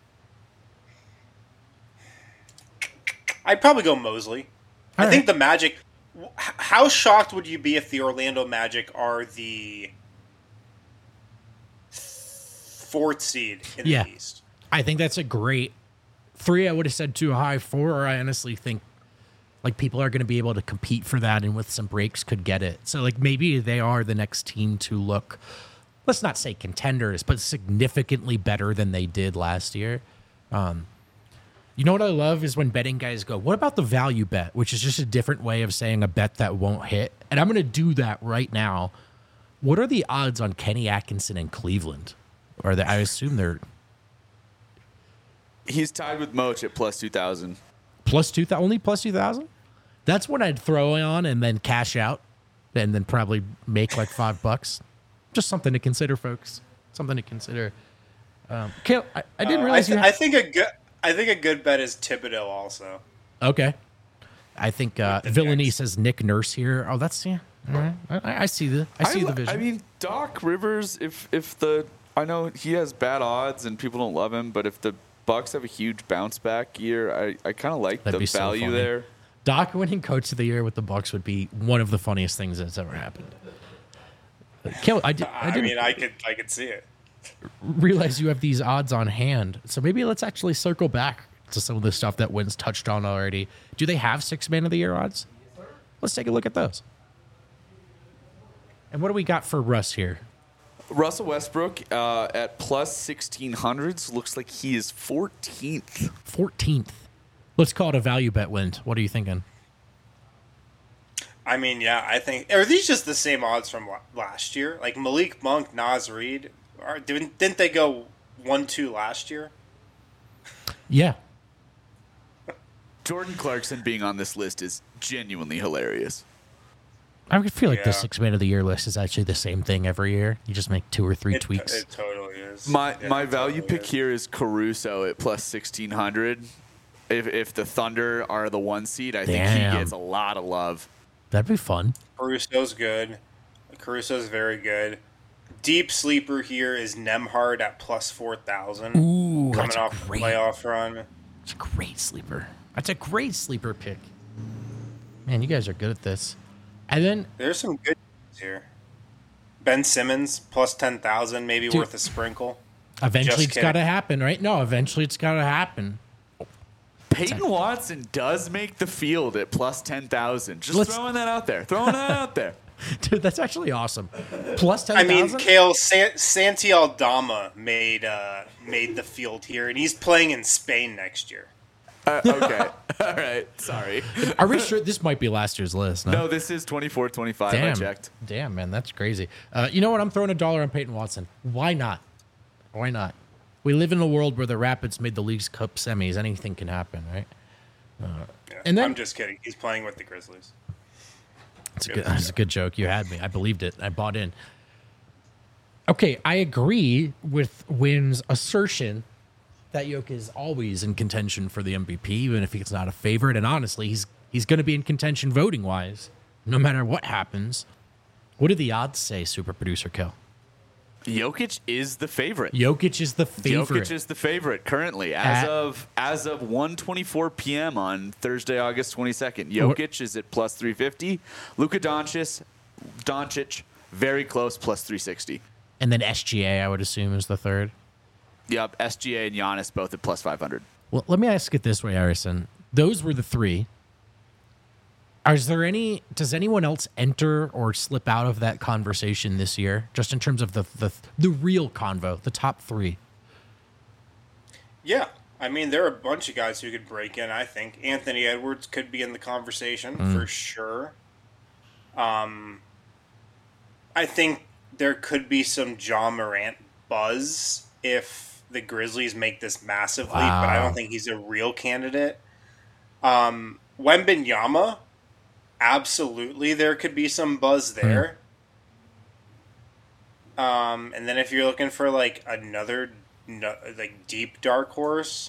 I'd probably go Mosley. All I think right. the Magic. h- How shocked would you be if the Orlando Magic are the fourth seed in Yeah. the East? I think that's a great three. I would have said too high. Four, I honestly think like people are going to be able to compete for that, and with some breaks could get it. So like maybe they are the next team to look, let's not say contenders, but significantly better than they did last year. Um, you know what I love is when betting guys go, what about the value bet, which is just a different way of saying a bet that won't hit. And I'm going to do that right now. What are the odds on Kenny Atkinson in Cleveland? Or they, I assume they're He's tied with Moch at plus two thousand. plus two thousand, only plus two thousand. That's what I'd throw on and then cash out, and then probably make like five bucks. Just something to consider, folks. Something to consider. Um, Kale, I, I didn't Uh, realize I, you. th- Had, I think a good. I think a good bet is Thibodeau also. okay. I think uh, the Villainy Knicks. says Nick Nurse here. Oh, that's yeah. All right. I, I see the. I see li- the vision. I mean, Doc Rivers. If if the I know he has bad odds and people don't love him, but if the Bucks have a huge bounce back year, I, I kind of like That'd the be so value funny. there. Doc winning Coach of the Year with the Bucks would be one of the funniest things that's ever happened. Kale, I, did, I I, didn't mean, I could. I could see it. realize you have these odds on hand. So maybe let's actually circle back to some of the stuff that Wynn's touched on already. Do they have six man of the year odds? Let's take a look at those. And what do we got for Russ here? Russell Westbrook uh, at plus sixteen hundreds looks like he is fourteenth. fourteenth. Let's call it a value bet, Wynn. What are you thinking? I mean, yeah, I think. Are these just the same odds from la- last year? Like Malik Monk, Nas Reed, are, didn't didn't they go one two last year? Yeah. Jordan Clarkson being on this list is genuinely hilarious. I would feel like the Yeah. six man of the year list is actually the same thing every year. You just make two or three It, tweaks. it totally is. My Yeah, my it value totally pick is. here is Caruso at plus sixteen hundred. If if the Thunder are the one seed, I think Damn. he gets a lot of love. That'd be fun. Caruso's good. Caruso's very good. Deep sleeper here is Nemhard at plus four thousand. Ooh, coming that's off great. the playoff run. It's a great sleeper. That's a great sleeper pick. Man, you guys are good at this. And then There's some good here. Ben Simmons plus ten thousand, maybe Dude. worth a sprinkle. eventually Just it's got to kidding. happen, right? No, eventually it's got to happen. Peyton Watson does make the field at plus ten thousand. Just Let's- throwing that out there. Throwing that out there. Dude, that's actually awesome. Plus ten I mean, thousand? Kale San- Santi Aldama made uh, made the field here, and he's playing in Spain next year. Uh, okay. All right. Sorry. Are we sure this might be last year's list? No, No, this is twenty-four twenty-five. I damn. checked. Damn, man, that's crazy. Uh, you know what? I'm throwing a dollar on Peyton Watson. Why not? Why not? We live in a world where the Rapids made the League's Cup semis. Anything can happen, right? Yeah, And then- I'm just kidding. He's playing with the Grizzlies. It's a good, it's a good joke. You had me. I believed it. I bought in. Okay, I agree with Wynn's assertion that Jokic is always in contention for the M V P, even if he's not a favorite. And honestly, he's he's going to be in contention voting wise, no matter what happens. What do the odds say, Super Producer Kill? Jokic is the favorite. Jokic is the favorite. Jokic is the favorite currently as At- of as of one twenty-four p.m. on Thursday, August twenty-second. Jokic is at plus three fifty. Luka Doncic, Doncic, very close, plus three sixty. And then S G A, I would assume, is the third. Yep, S G A and Giannis both at plus five hundred. Well, let me ask it this way, Arison. Those were the three. Is there any? Does anyone else enter or slip out of that conversation this year? Just in terms of the the the real convo, the top three. Yeah, I mean, there are a bunch of guys who could break in. I think Anthony Edwards could be in the conversation Mm. for sure. Um, I think there could be some John Morant buzz if the Grizzlies make this massive leap, but I Wow. don't think he's a real candidate. Um, Wembanyama, absolutely, there could be some buzz there. Um, and then if you're looking for like another no, like deep dark horse,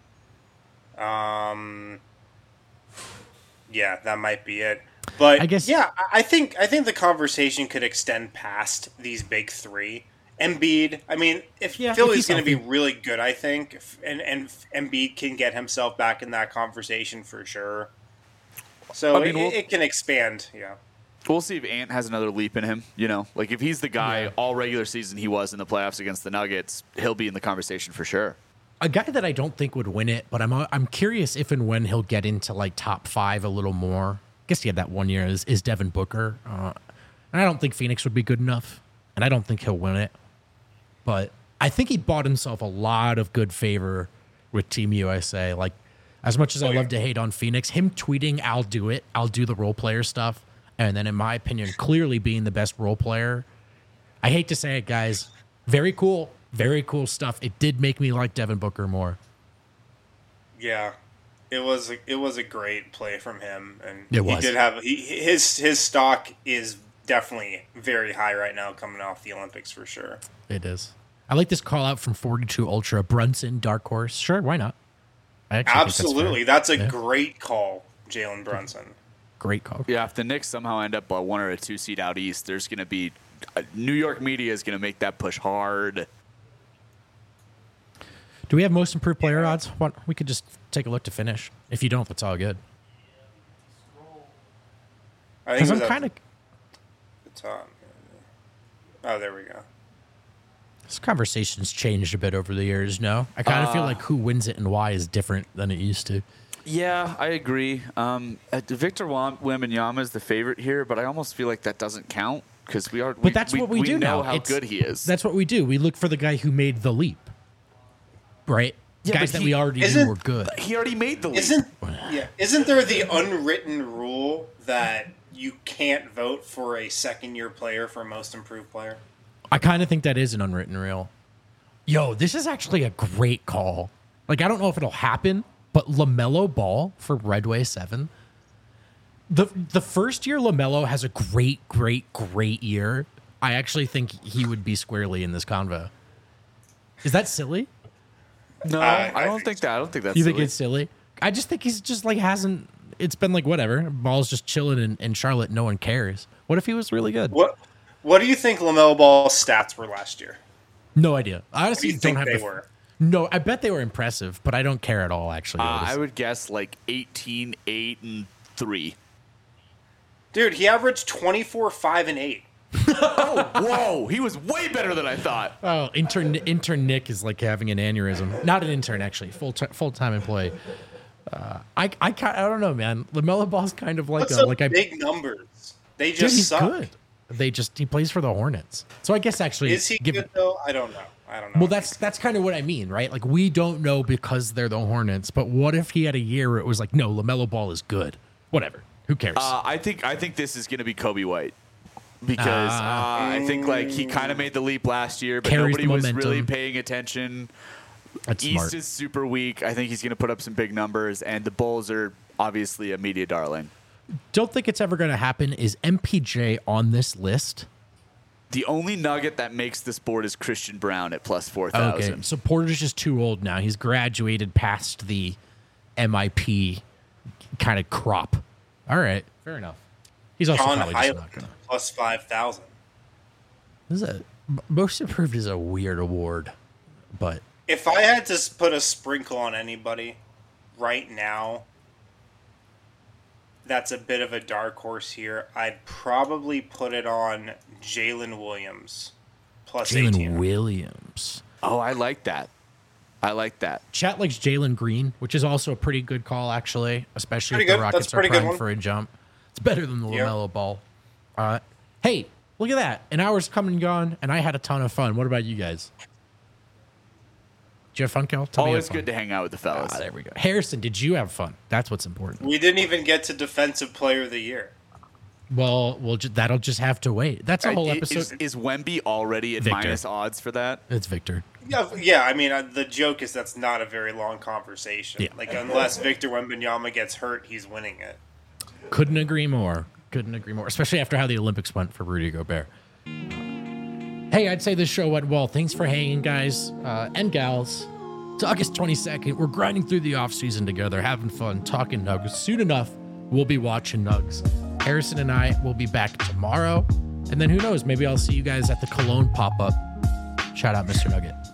um, yeah, that might be it. But I guess- yeah, I- I think I think the conversation could extend past these big three Embiid. I mean, if Yeah, if Philly's he's going to be healthy. really good, I think, if, and and Embiid can get himself back in that conversation for sure. So I mean, it, we'll- it can expand. Yeah. We'll see if Ant has another leap in him. You know, like if he's the guy Yeah. all regular season he was in the playoffs against the Nuggets, he'll be in the conversation for sure. A guy that I don't think would win it, but I'm I'm curious if and when he'll get into like top five a little more. I guess he had that one year is, is Devin Booker. Uh, and I don't think Phoenix would be good enough, and I don't think he'll win it. But I think he bought himself a lot of good favor with Team U S A. Like, as much as I Oh, love yeah. to hate on Phoenix, him tweeting, I'll do it, I'll do the role player stuff, and then in my opinion, clearly being the best role player. I hate to say it, guys. Very cool. Very cool stuff. It did make me like Devin Booker more. Yeah, it was a, it was a great play from him, and It he was. did have he, his his stock is definitely very high right now coming off the Olympics for sure. It is. I like this call out from forty-two Ultra. Brunson, dark horse. Sure, why not? I actually think that's fair. Absolutely, that's, a Yeah. great call, Jalen Brunson. Great call. Yeah, if the Knicks somehow end up a one or a two seed out east, there's going to be uh, New York media is going to make that push hard. Do we have most improved player odds? What, we could just take a look to finish. If you don't, that's all good. I think Because it I'm was kind of at the top. Oh, there we go. this conversation's changed a bit over the years. No, I kind of feel like who wins it and why is different than it used to. Yeah, I agree. Um, uh, Victor Wam- Wembanyama is the favorite here, but I almost feel like that doesn't count because we are. But that's what we, we do know now. how It's- good he is. That's what we do. We look for the guy who made the leap, right? Yeah, Guys but that he- we already knew isn't- were good. he already made the leap. Isn't yeah? Isn't there the unwritten rule that you can't vote for a second year player for most improved player? I kind of think that is an unwritten rule. Yo, this is actually a great call. Like, I don't know if it'll happen, but LaMelo Ball for Redway seven. The the first year LaMelo has a great, great, great year. I actually think he would be squarely in this convo. Is that silly? No, Uh, I I don't think think that. I don't think that's. You think silly. it's silly? I just think he's just like hasn't. It's been like whatever. Ball's just chilling in, in Charlotte. No one cares. What if he was really good? What What do you think LaMelo Ball's stats were last year? No idea. I What do honestly you don't think have they the. were? No, I bet they were impressive, but I don't care at all. Actually, Uh, Otis. I would guess like eighteen, eight, and three. Dude, he averaged twenty-four, five, and eight. Whoa, he was way better than I thought. Oh, intern intern Nick is like having an aneurysm. Not an intern, actually, full t- full time employee. Uh, I I ca- I don't know, man. LaMelo Ball's kind of like What's a, up like I big numbers? They dude, just he's suck. good. They just he plays for the Hornets. So I guess actually, Is he give- good though? I don't know. I don't know. Well, that's that's kind of what I mean, right? Like we don't know because they're the Hornets. But what if he had a year where it was like, no, LaMelo Ball is good. Whatever. Who cares? Uh, I think I think this is going to be Kobe White because uh, I think like he kind of made the leap last year, but Carries nobody the was momentum. really paying attention. That's East smart. is super weak. I think he's going to put up some big numbers, and the Bulls are obviously a media darling. Don't think it's ever going to happen. Is M P J on this list? The only nugget that makes this board is Christian Brown at plus four Okay, thousand. so Porter's just too old now. He's graduated past the M I P kind of crop. All right, fair enough. He's also John probably just Highland not gonna. plus five thousand. This is a most improved is a weird award, but If I had to s- put a sprinkle on anybody right now, that's a bit of a dark horse here. I'd probably put it on Jalen Williams plus Jalen eighteen. Williams. Oh, I like that. I like that. Chat likes Jalen Green, which is also a pretty good call, actually, especially Pretty if the good. Rockets That's are pretty good primed one. for a jump. It's better than the Yeah. LaMelo Ball. Uh, hey, look at that. An hour's come and gone, and I had a ton of fun. What about you guys? Did you have fun, Kel? Tell me you Always had fun. good to hang out with the fellas. Ah, there we go. Harrison, did you have fun? That's what's important. We didn't even get to Defensive Player of the Year. Well, we'll ju- that'll just have to wait. That's a whole I- episode. Is, is Wemby already at Victor. minus odds for that? It's Victor. Yeah, yeah. I mean, uh, the joke is that's not a very long conversation. Yeah. Like, unless Victor Wembanyama gets hurt, he's winning it. Couldn't agree more. Couldn't agree more. Especially after how the Olympics went for Rudy Gobert. Hey, I'd say this show went well. Thanks for hanging, guys uh, and gals. It's August twenty-second. We're grinding through the offseason together, having fun, talking Nugs. Soon enough, we'll be watching Nugs. Harrison and I will be back tomorrow. And then who knows? Maybe I'll see you guys at the Cologne pop-up. Shout out, Mister Nugget.